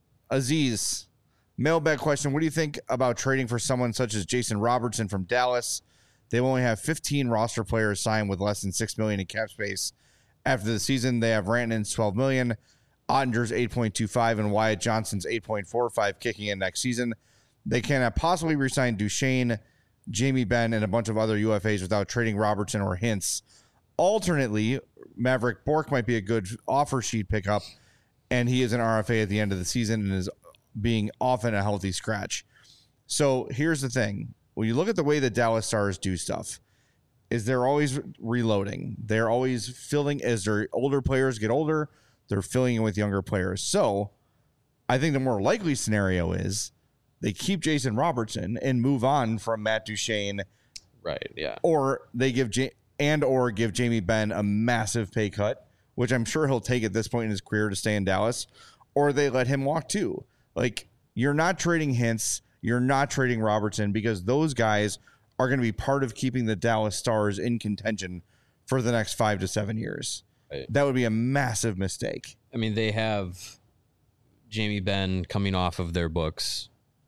[SPEAKER 1] Aziz, mailbag question. What do you think about trading for someone such as Jason Robertson from Dallas? They only have fifteen roster players signed with less than six million in cap space. After the season, they have Rantanen's twelve million, Ottinger's eight point two five, and Wyatt Johnson's eight point four five kicking in next season. They cannot possibly resign Duchesne, Jamie Benn, and a bunch of other U F As without trading Robertson or Hintz. Alternately, Maverick Bork might be a good offer sheet pickup, and he is an R F A at the end of the season and is being often a healthy scratch. So here's the thing. When you look at the way the Dallas Stars do stuff, is they're always reloading. They're always filling as their older players get older, they're filling in with younger players. So I think the more likely scenario is they keep Jason Robertson and move on from Matt Duchene,
[SPEAKER 2] Right. Yeah.
[SPEAKER 1] or they give J- and or give Jamie Benn a massive pay cut, which I'm sure he'll take at this point in his career to stay in Dallas, or they let him walk too. Like, you're not trading Hintz, you're not trading Robertson, because those guys are going to be part of keeping the Dallas Stars in contention for the next five to seven years.
[SPEAKER 2] Right.
[SPEAKER 1] That would be a massive mistake.
[SPEAKER 2] I mean, they have Jamie Benn coming off of their books.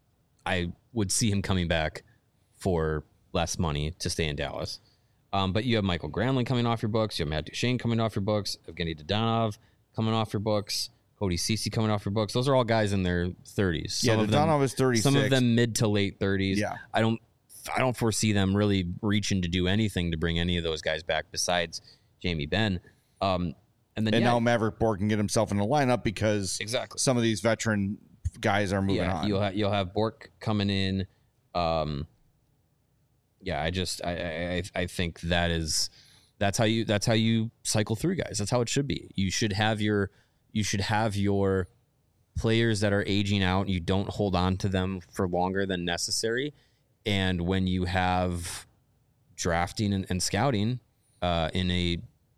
[SPEAKER 2] I would see him coming back for less money to stay in Dallas. Um, but you have Michael Granlund coming off your books. You have Matt Duchene coming off your books. Evgeny Dadonov coming off your books. Cody Ceci coming off your books. Those are all guys in their thirties. Some
[SPEAKER 1] Yeah,
[SPEAKER 2] of them,
[SPEAKER 1] Dadonov is thirty-six.
[SPEAKER 2] some of them mid to late thirties.
[SPEAKER 1] Yeah.
[SPEAKER 2] I don't I don't foresee them really reaching to do anything to bring any of those guys back besides Jamie Benn. Um, and then
[SPEAKER 1] And
[SPEAKER 2] yeah,
[SPEAKER 1] now Maverick Bork can get himself in the lineup because
[SPEAKER 2] exactly.
[SPEAKER 1] some of these veteran guys are moving
[SPEAKER 2] yeah,
[SPEAKER 1] on.
[SPEAKER 2] You'll have you'll have Bork coming in. Um, yeah, I just I, I I think that is that's how you that's how you cycle through guys. That's how it should be. You should have your you should have your players that are aging out. You don't hold on to them for longer than necessary. And when you have drafting and, and scouting uh, in a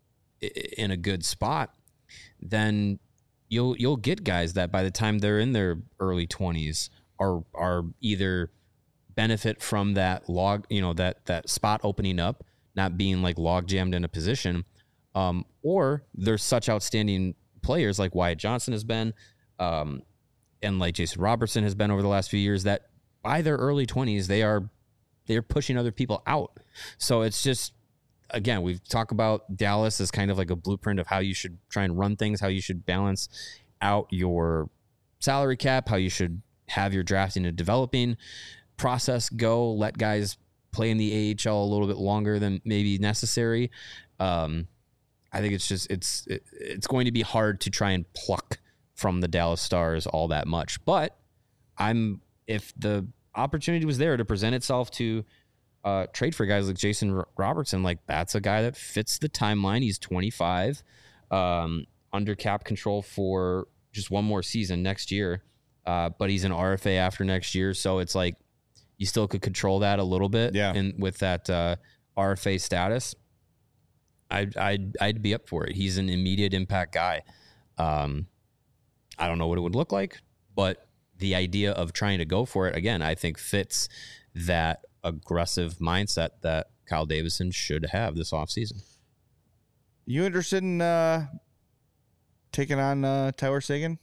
[SPEAKER 2] in a good spot, then you'll you'll get guys that by the time they're in their early twenties are are either benefit from that log, you know, that that spot opening up, not being like log jammed in a position, um, or there's such outstanding players like Wyatt Johnson has been, um, and like Jason Robertson has been over the last few years, that by their early twenties, they are they're pushing other people out. So it's just, again, we've talked about Dallas as kind of like a blueprint of how you should try and run things, how you should balance out your salary cap, how you should have your drafting and developing process go, let guys play in the A H L a little bit longer than maybe necessary. Um, I think it's just, it's, it, it's going to be hard to try and pluck from the Dallas Stars all that much. But I'm, if the opportunity was there to present itself to uh, trade for guys like Jason R- Robertson, like that's a guy that fits the timeline. He's twenty-five, um, under cap control for just one more season next year. Uh, but he's an R F A after next year. So it's like, you still could control that a little bit.
[SPEAKER 1] Yeah.
[SPEAKER 2] And with that uh, R F A status, I'd, I'd, I'd be up for it. He's an immediate impact guy. Um, I don't know what it would look like, but the idea of trying to go for it, again, I think fits that aggressive mindset that Kyle Davidson should have this offseason.
[SPEAKER 1] You interested in uh, taking on uh, Tyler Seguin?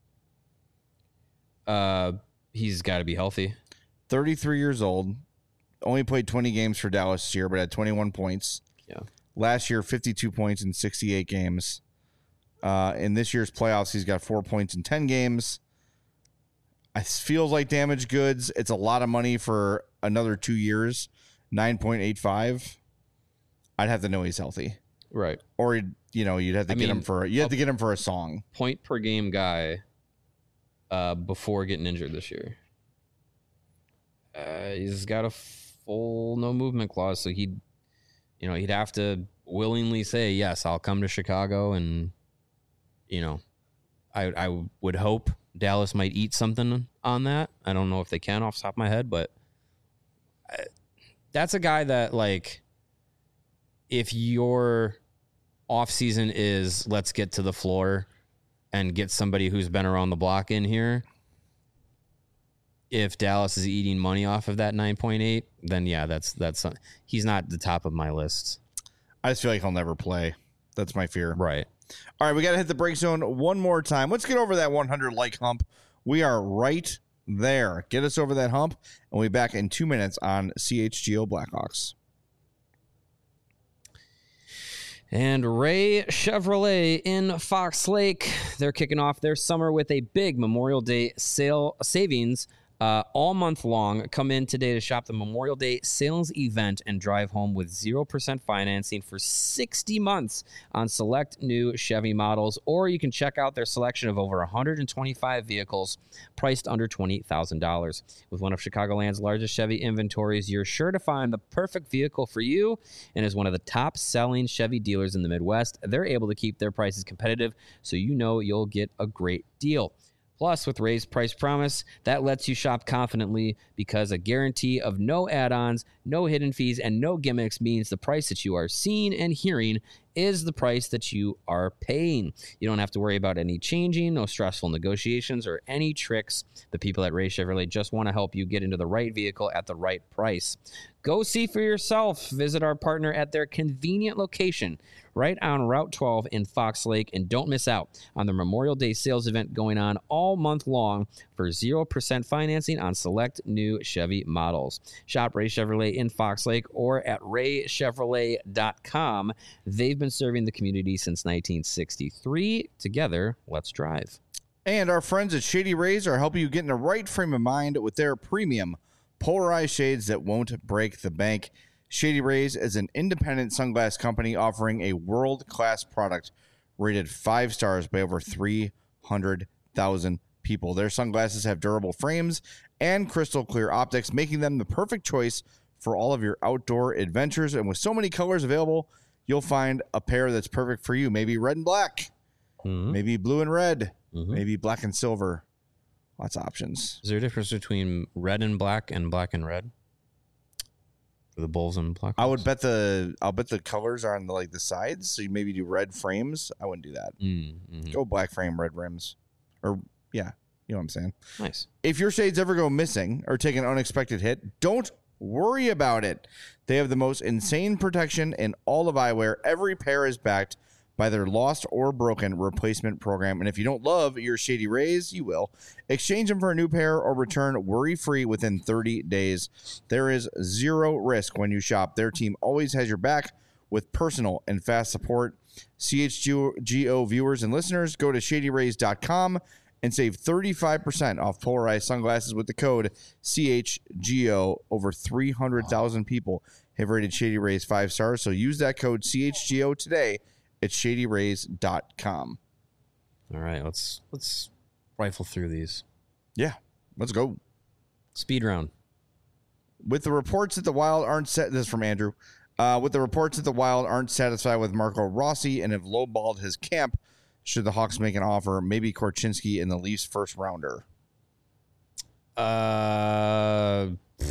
[SPEAKER 2] Uh, he's got to be healthy.
[SPEAKER 1] thirty-three years old. Only played twenty games for Dallas this year, but had twenty-one points.
[SPEAKER 2] Yeah.
[SPEAKER 1] Last year, fifty-two points in sixty-eight games. Uh, in this year's playoffs, he's got four points in ten games. It feels like damaged goods. It's a lot of money for another two years. nine point eight five. I'd have to know he's healthy.
[SPEAKER 2] Right.
[SPEAKER 1] Or, you know, you'd have to
[SPEAKER 2] I
[SPEAKER 1] get
[SPEAKER 2] mean,
[SPEAKER 1] him for you have to get him for a song.
[SPEAKER 2] Point per game guy uh, before getting injured this year. Uh, he's got a full no movement clause, so he'd, you know, he'd have to willingly say, yes, I'll come to Chicago, and, you know, I I would hope Dallas might eat something on that. I don't know if they can off the top of my head, but I, that's a guy that, like, if your offseason is let's get to the floor and get somebody who's been around the block in here, if Dallas is eating money off of that nine point eight, then yeah, that's that's he's not the top of my list.
[SPEAKER 1] I just feel like he'll never play. That's my fear.
[SPEAKER 2] Right.
[SPEAKER 1] All right, we got to hit the break zone one more time. Let's get over that one hundred like hump. We are right there. Get us over that hump, and we'll be back in two minutes on C H G O Blackhawks.
[SPEAKER 2] And Ray Chevrolet in Fox Lake, they're kicking off their summer with a big Memorial Day sale savings uh, all month long. Come in today to shop the Memorial Day sales event and drive home with zero percent financing for sixty months on select new Chevy models, or you can check out their selection of over one hundred twenty-five vehicles priced under twenty thousand dollars. With one of Chicagoland's largest Chevy inventories, you're sure to find the perfect vehicle for you, and as one of the top selling Chevy dealers in the Midwest, they're able to keep their prices competitive, so you know you'll get a great deal. Plus, with Ray's Price Promise, that lets you shop confidently because a guarantee of no add-ons, no hidden fees, and no gimmicks means the price that you are seeing and hearing is the price that you are paying. You don't have to worry about any changing, no stressful negotiations, or any tricks. The people at Ray Chevrolet just want to help you get into the right vehicle at the right price. Go see for yourself. Visit our partner at their convenient location right on Route twelve in Fox Lake, and don't miss out on the Memorial Day sales event going on all month long for zero percent financing on select new Chevy models. Shop Ray Chevrolet in Fox Lake or at ray chevrolet dot com. They've been serving the community since nineteen sixty-three. Together, let's drive.
[SPEAKER 1] And our friends at Shady Rays are helping you get in the right frame of mind with their premium polarized shades that won't break the bank. Shady Rays is an independent sunglass company offering a world-class product rated five stars by over three hundred thousand people. Their sunglasses have durable frames and crystal clear optics, making them the perfect choice for all of your outdoor adventures. And with so many colors available, you'll find a pair that's perfect for you. Maybe red and black,
[SPEAKER 2] Mm-hmm.
[SPEAKER 1] maybe blue and red,
[SPEAKER 2] Mm-hmm.
[SPEAKER 1] maybe black and silver. Lots of options.
[SPEAKER 2] Is there a difference between red and black and black and red for the Bulls and Blackhawks?
[SPEAKER 1] I would bet the I'll bet the colors are on the, like the sides. So you maybe do red frames. I wouldn't do that.
[SPEAKER 2] Mm-hmm.
[SPEAKER 1] Go black frame, red rims, or yeah, you know what I'm saying.
[SPEAKER 2] Nice.
[SPEAKER 1] If your shades ever go missing or take an unexpected hit, don't worry about it. They have the most insane protection in all of eyewear. Every pair is backed by their lost or broken replacement program. And if you don't love your Shady Rays, you will. Exchange them for a new pair or return worry-free within thirty days. There is zero risk when you shop. Their team always has your back with personal and fast support. C H G O viewers and listeners, go to shady rays dot com and save thirty-five percent off polarized sunglasses with the code C H G O. Over three hundred thousand people have rated Shady Rays five stars, so use that code C H G O today at shady rays dot com.
[SPEAKER 2] All right, let's let's rifle through these.
[SPEAKER 1] Yeah, let's go.
[SPEAKER 2] Speed round.
[SPEAKER 1] With the reports that the Wild aren't set, this is from Andrew. Uh, with the reports that the Wild aren't satisfied with Marco Rossi and have lowballed his camp, should the Hawks make an offer? Maybe Korchinski in the Leafs first rounder.
[SPEAKER 2] Uh,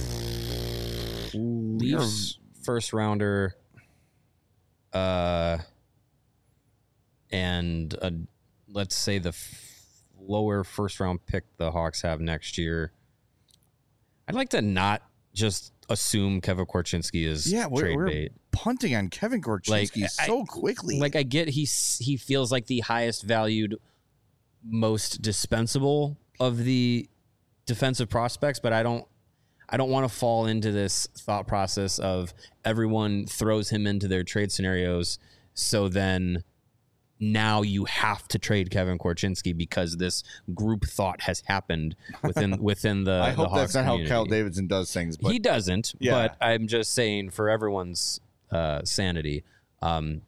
[SPEAKER 2] Leafs first rounder. Uh, and uh, let's say the f- lower first round pick the Hawks have next year. I'd like to not just assume Kevin Korchinski is
[SPEAKER 1] yeah, we're,
[SPEAKER 2] trade
[SPEAKER 1] we're
[SPEAKER 2] bait.
[SPEAKER 1] punting on Kevin Korchinski
[SPEAKER 2] Like,
[SPEAKER 1] so
[SPEAKER 2] I,
[SPEAKER 1] quickly.
[SPEAKER 2] Like I get he he feels like the highest valued, most dispensable of the defensive prospects, but I don't I don't want to fall into this thought process of everyone throws him into their trade scenarios, so then now you have to trade Kevin Korchinski because this group thought has happened within within the.
[SPEAKER 1] I
[SPEAKER 2] the
[SPEAKER 1] hope
[SPEAKER 2] Hawks
[SPEAKER 1] that's not
[SPEAKER 2] community.
[SPEAKER 1] how Kyle Davidson does things. But
[SPEAKER 2] He doesn't,
[SPEAKER 1] Yeah.
[SPEAKER 2] but I'm just saying for everyone's uh, sanity. Um,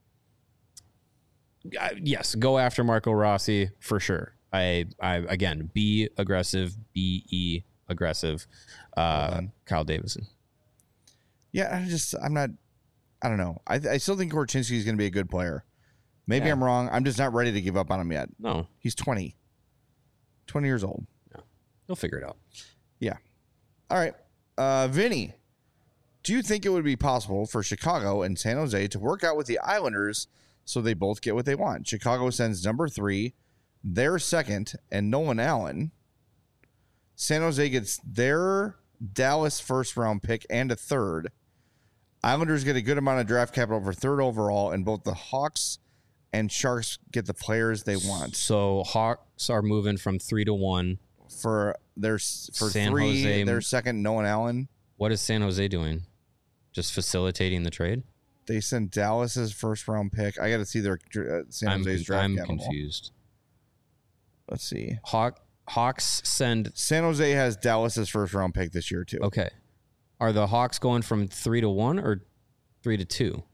[SPEAKER 2] I- yes, go after Marco Rossi for sure. I, I again, be aggressive, be aggressive. Uh,
[SPEAKER 1] done.
[SPEAKER 2] Kyle Davidson.
[SPEAKER 1] yeah, I just I'm not. I don't know. I I still think Korchinski is going to be a good player. Maybe
[SPEAKER 2] Yeah.
[SPEAKER 1] I'm wrong. I'm just not ready to give up on him yet.
[SPEAKER 2] No,
[SPEAKER 1] He's twenty. twenty years old.
[SPEAKER 2] he'll figure it out.
[SPEAKER 1] All right. Uh, Vinny, do you think it would be possible for Chicago and San Jose to work out with the Islanders so they both get what they want? Chicago sends number three, their second, and Nolan Allen. San Jose gets their Dallas first round pick and a third. Islanders get a good amount of draft capital for third overall, and both the Hawks and Sharks get the players they want
[SPEAKER 2] So Hawks are moving from three to one.
[SPEAKER 1] for their for
[SPEAKER 2] San
[SPEAKER 1] three.
[SPEAKER 2] Jose-
[SPEAKER 1] Their second, Nolan Allen.
[SPEAKER 2] What is San Jose doing? Just facilitating the trade?
[SPEAKER 1] They sent Dallas's first round pick. I got to see their uh, San
[SPEAKER 2] I'm,
[SPEAKER 1] Jose's draft
[SPEAKER 2] I'm
[SPEAKER 1] capital.
[SPEAKER 2] confused.
[SPEAKER 1] Let's see.
[SPEAKER 2] Hawk Hawks send
[SPEAKER 1] San Jose has Dallas's first round pick this year too.
[SPEAKER 2] okay. Are the Hawks going from three to one or three to two?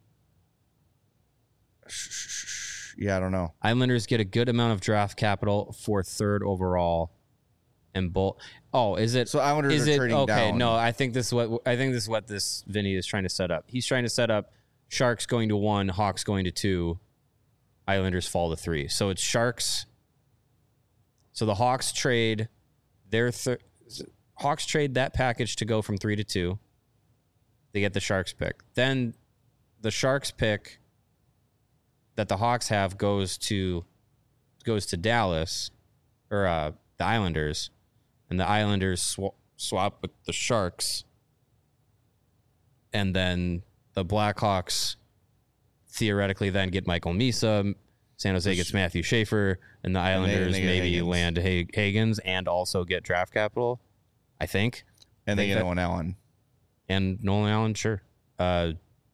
[SPEAKER 1] Yeah, I don't know.
[SPEAKER 2] Islanders get a good amount of draft capital for third overall, and both. Oh, is it?
[SPEAKER 1] So Islanders
[SPEAKER 2] is
[SPEAKER 1] are
[SPEAKER 2] it
[SPEAKER 1] trading
[SPEAKER 2] okay?
[SPEAKER 1] down.
[SPEAKER 2] No, I think this is what I think this is what this Vinny is trying to set up. He's trying to set up Sharks going to one, Hawks going to two, Islanders fall to three. So it's Sharks. So the Hawks trade their thir- Hawks trade that package to go from three to two. They get the Sharks pick. Then the Sharks pick that the Hawks have goes to goes to Dallas or uh, the Islanders, and the Islanders sw- swap with the Sharks, and then the Blackhawks theoretically then get Michael Misa. San Jose gets Matthew Schaefer, and the Islanders
[SPEAKER 1] they get
[SPEAKER 2] maybe
[SPEAKER 1] Higgins.
[SPEAKER 2] land Hag- Higgins and also get draft capital, I think.
[SPEAKER 1] And they
[SPEAKER 2] think
[SPEAKER 1] get
[SPEAKER 2] that-
[SPEAKER 1] Nolan Allen.
[SPEAKER 2] And Nolan Allen, sure. Uh,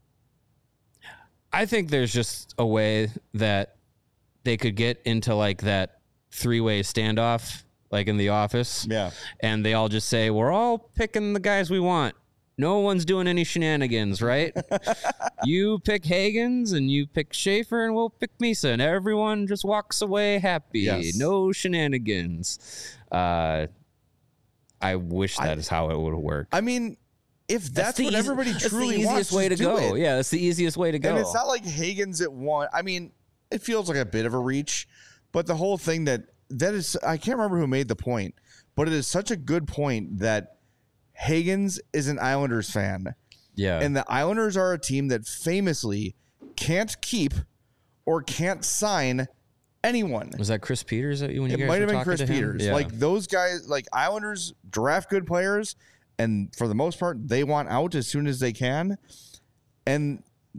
[SPEAKER 2] I think there's just a way that they could get into like that three-way standoff, like in The Office,
[SPEAKER 1] Yeah.
[SPEAKER 2] and they all just say, we're all picking the guys we want. No one's doing any shenanigans, right? You pick Higgins and you pick Schaefer and we'll pick Misa, and everyone just walks away happy.
[SPEAKER 1] Yes.
[SPEAKER 2] No shenanigans. Uh, I wish that is how it would work.
[SPEAKER 1] I mean, if that's,
[SPEAKER 2] the
[SPEAKER 1] what
[SPEAKER 2] easy-
[SPEAKER 1] everybody
[SPEAKER 2] that's
[SPEAKER 1] truly
[SPEAKER 2] the easiest
[SPEAKER 1] wants,
[SPEAKER 2] way to
[SPEAKER 1] just do
[SPEAKER 2] go.
[SPEAKER 1] it.
[SPEAKER 2] Yeah, that's the easiest way to go.
[SPEAKER 1] And it's not like Higgins at one. I mean, it feels like a bit of a reach, but the whole thing that that is, I can't remember who made the point, but it is such a good point that Higgins is an Islanders fan.
[SPEAKER 2] yeah,
[SPEAKER 1] And the Islanders are a team that famously can't keep or can't sign anyone.
[SPEAKER 2] was that Chris Peters that you when you
[SPEAKER 1] It
[SPEAKER 2] guys
[SPEAKER 1] might
[SPEAKER 2] were
[SPEAKER 1] have been
[SPEAKER 2] talking
[SPEAKER 1] Chris
[SPEAKER 2] to him?
[SPEAKER 1] Peters.
[SPEAKER 2] Yeah.
[SPEAKER 1] Like those guys, like Islanders draft good players, and for the most part, they want out as soon as they can. And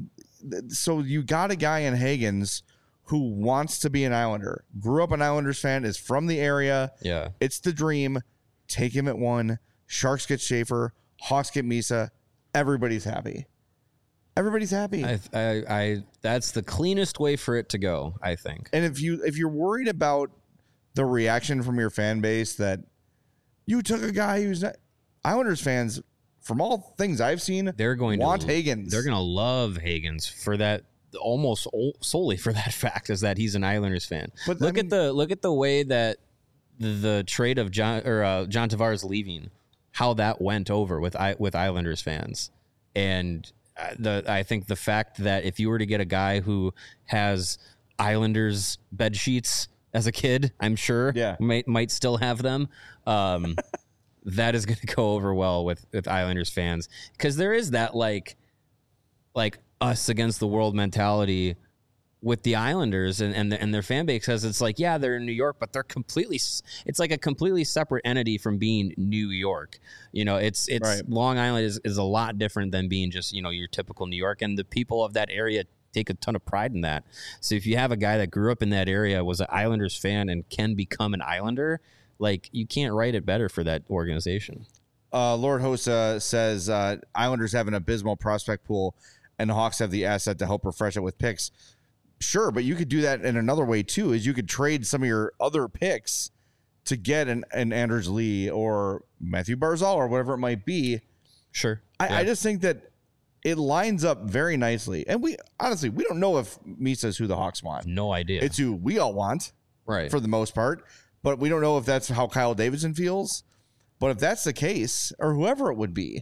[SPEAKER 1] so you got a guy in Higgins who wants to be an Islander, grew up an Islanders fan, is from the area.
[SPEAKER 2] Yeah.
[SPEAKER 1] It's the dream. Take him at one. Sharks get Schaefer. Hawks get Misa. Everybody's happy. Everybody's happy.
[SPEAKER 2] I, I, I, that's the cleanest way for it to go, I think.
[SPEAKER 1] And if you if you're worried about the reaction from your fan base that you took a guy who's not, Islanders fans, from all things I've seen,
[SPEAKER 2] They're going
[SPEAKER 1] want
[SPEAKER 2] to
[SPEAKER 1] Higgins.
[SPEAKER 2] They're going to love Higgins for that. Almost solely for that fact is that he's an Islanders fan.
[SPEAKER 1] But,
[SPEAKER 2] look
[SPEAKER 1] I mean,
[SPEAKER 2] at the look at the way that the, the trade of John or uh, John Tavares leaving, how that went over with I, with Islanders fans, and the I think the fact that if you were to get a guy who has Islanders bed sheets as a kid, I'm sure
[SPEAKER 1] Yeah.
[SPEAKER 2] might might still have them. Um, that is going to go over well with with Islanders fans because there is that like like. us against the world mentality with the Islanders and and, the, and their fan base, because it's like, yeah, they're in New York, but they're completely, it's like a completely separate entity from being New York. You know, it's, it's
[SPEAKER 1] Right.
[SPEAKER 2] Long Island is, is a lot different than being just, you know, your typical New York, and the people of that area take a ton of pride in that. So if you have a guy that grew up in that area, was an Islanders fan, and can become an Islander, like, you can't write it better for that organization.
[SPEAKER 1] Uh, Lord Hosa says uh, Islanders have an abysmal prospect pool, and the Hawks have the asset to help refresh it with picks. Sure, but you could do that in another way too. Is you could trade some of your other picks to get an, an Anders Lee or Matthew Barzal or whatever it might be.
[SPEAKER 2] Sure,
[SPEAKER 1] I,
[SPEAKER 2] yeah.
[SPEAKER 1] I just think that it lines up very nicely. And we honestly we don't know if Misa is who the Hawks want.
[SPEAKER 2] No idea.
[SPEAKER 1] It's who we all want,
[SPEAKER 2] right,
[SPEAKER 1] for the most part. But we don't know if that's how Kyle Davidson feels. But if that's the case, or whoever it would be,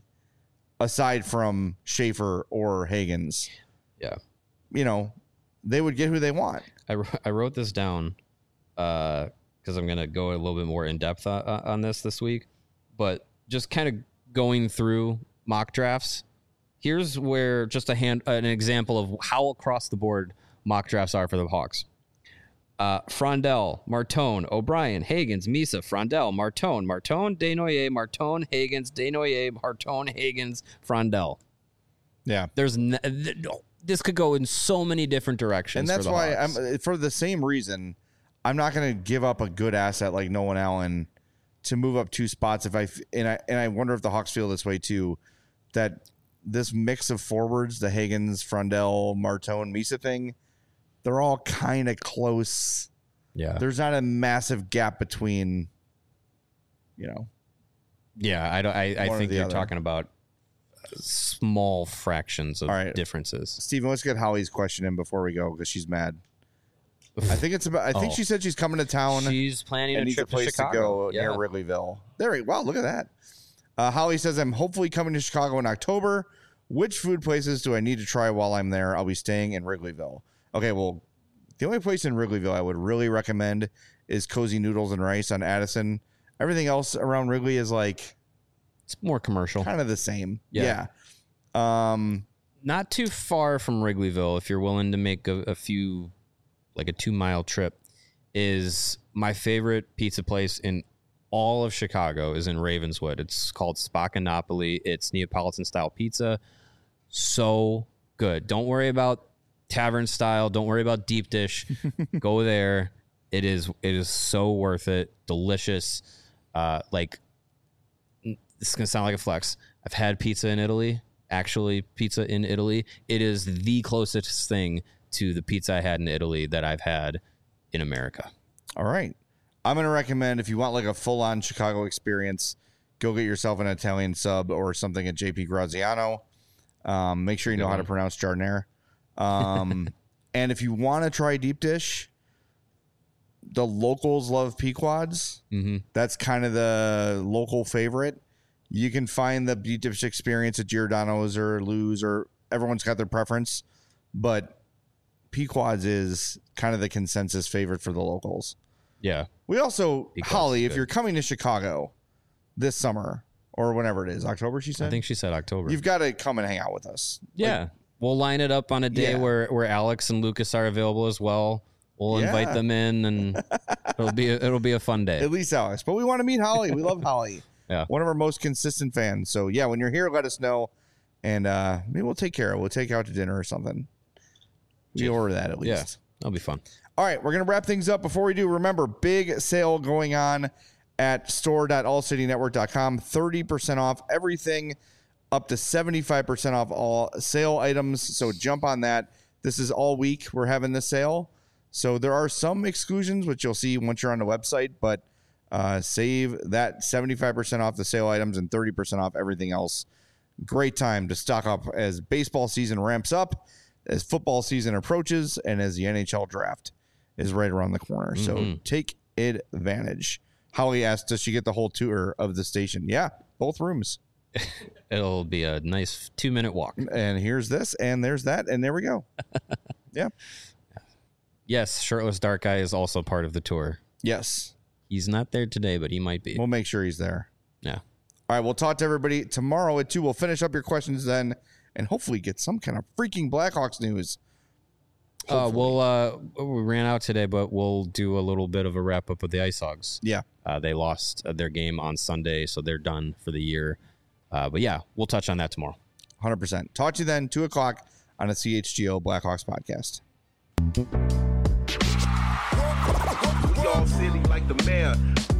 [SPEAKER 1] aside from Schaefer or Higgins,
[SPEAKER 2] yeah,
[SPEAKER 1] you know, they would get who they want.
[SPEAKER 2] I, I wrote this down because uh, I'm going to go a little bit more in depth uh, on this this week. But just kind of going through mock drafts, here's where just a hand an example of how across the board mock drafts are for the Hawks. Uh, Frondel, Martone, O'Brien, Higgins, Misa, Frondel, Martone, Martone, Desnoyers, Martone, Higgins, Desnoyers, Martone, Higgins, Frondel.
[SPEAKER 1] Yeah.
[SPEAKER 2] There's n- th- this could go in so many different directions.
[SPEAKER 1] And that's
[SPEAKER 2] for the
[SPEAKER 1] why
[SPEAKER 2] Hawks.
[SPEAKER 1] I'm for the same reason, I'm not going to give up a good asset like Nolan Allen to move up two spots. If I and I and I wonder if the Hawks feel this way too, that this mix of forwards, the Higgins, Frondel, Martone, Misa thing, they're all kind of close.
[SPEAKER 2] Yeah.
[SPEAKER 1] There's not a massive gap between, you know.
[SPEAKER 2] Yeah, I don't. I, I
[SPEAKER 1] One or
[SPEAKER 2] think
[SPEAKER 1] the
[SPEAKER 2] you're
[SPEAKER 1] other.
[SPEAKER 2] talking about small fractions of
[SPEAKER 1] All right.
[SPEAKER 2] differences.
[SPEAKER 1] Steven, let's get Holly's question in before we go because she's mad. I think it's about. I think
[SPEAKER 2] Oh.
[SPEAKER 1] she said she's coming to town.
[SPEAKER 2] She's planning
[SPEAKER 1] and
[SPEAKER 2] a
[SPEAKER 1] needs
[SPEAKER 2] trip
[SPEAKER 1] a place
[SPEAKER 2] to Chicago.
[SPEAKER 1] go
[SPEAKER 2] yeah.
[SPEAKER 1] near Wrigleyville. There we wow, look at that. Uh, Holly says, I'm hopefully coming to Chicago in October. Which food places do I need to try while I'm there? I'll be staying in Wrigleyville. Okay, well, the only place in Wrigleyville I would really recommend is Cozy Noodles and Rice on Addison. Everything else around Wrigley is like
[SPEAKER 2] It's more commercial.
[SPEAKER 1] kind of the same.
[SPEAKER 2] Yeah.
[SPEAKER 1] Yeah. Um,
[SPEAKER 2] Not too far from Wrigleyville, if you're willing to make a, a few, like a two mile trip, is my favorite pizza place in all of Chicago is in Ravenswood. It's called Spaccanapoli. It's Neapolitan style pizza. So good. Don't worry about tavern style. Don't worry about deep dish. Go there. It is it is so worth it. Delicious. Uh, like this is gonna sound like a flex. I've had pizza in Italy. Actually, pizza in Italy. It is the closest thing to the pizza I had in Italy that I've had in America.
[SPEAKER 1] all right. I'm going to recommend if you want like a full-on Chicago experience, go get yourself an Italian sub or something at J P Graziano. Um, make sure you know how to pronounce Jardiniere. Um, and if you want to try deep dish, the locals love Pequods.
[SPEAKER 2] Mm-hmm.
[SPEAKER 1] That's kind of the local favorite. You can find the deep dish experience at Giordano's or Lou's, or everyone's got their preference, but Pequods is kind of the consensus favorite for the locals.
[SPEAKER 2] Yeah.
[SPEAKER 1] We also,
[SPEAKER 2] Pequod's
[SPEAKER 1] Holly,
[SPEAKER 2] is
[SPEAKER 1] if
[SPEAKER 2] good.
[SPEAKER 1] you're coming to Chicago this summer or whenever it is, October, she said,
[SPEAKER 2] I think she said October.
[SPEAKER 1] you've got to come and hang out with us.
[SPEAKER 2] Yeah.
[SPEAKER 1] Like,
[SPEAKER 2] we'll line it up on a day
[SPEAKER 1] Yeah.
[SPEAKER 2] where, where Alex and Lucas are available as well. We'll
[SPEAKER 1] Yeah.
[SPEAKER 2] invite them in and it'll be a, it'll be a fun day.
[SPEAKER 1] at least Alex, but we want to meet Holly. We love Holly.
[SPEAKER 2] Yeah.
[SPEAKER 1] One of our most consistent fans. So yeah, when you're here, let us know, and uh, maybe we'll take care of it. We'll take you out to dinner or something. We order that at least.
[SPEAKER 2] Yeah, that'll be fun.
[SPEAKER 1] All right, we're going to wrap things up. Before we do, remember, big sale going on at store dot all city network dot com. thirty percent off everything, up to seventy-five percent off all sale items. So jump on that. This is all week we're having this sale. So there are some exclusions, which you'll see once you're on the website, but uh, save that seventy-five percent off the sale items and thirty percent off everything else. Great time to stock up as baseball season ramps up, as football season approaches, and as the N H L draft is right around the corner. So mm-hmm. take advantage. Holly asked, does she get the whole tour of the station? Yeah, both rooms.
[SPEAKER 2] It'll be a nice two-minute walk.
[SPEAKER 1] And here's this, and there's that, and there we go. Yeah.
[SPEAKER 2] Yes, Shirtless Dark Guy is also part of the tour.
[SPEAKER 1] Yes.
[SPEAKER 2] He's not there today, but he might be.
[SPEAKER 1] We'll make sure he's there.
[SPEAKER 2] Yeah.
[SPEAKER 1] All right, we'll talk to everybody tomorrow at two. We'll finish up your questions then and hopefully get some kind of freaking Blackhawks news.
[SPEAKER 2] Uh, we'll, uh, we ran out today, but we'll do a little bit of a wrap-up of the Ice Hogs.
[SPEAKER 1] Yeah.
[SPEAKER 2] Uh, they lost their game on Sunday, so they're done for the year. Uh, but, yeah, we'll touch on that tomorrow.
[SPEAKER 1] one hundred percent. Talk to you then, two o'clock on a C H G O Blackhawks podcast.
[SPEAKER 4] We all silly like the mayor.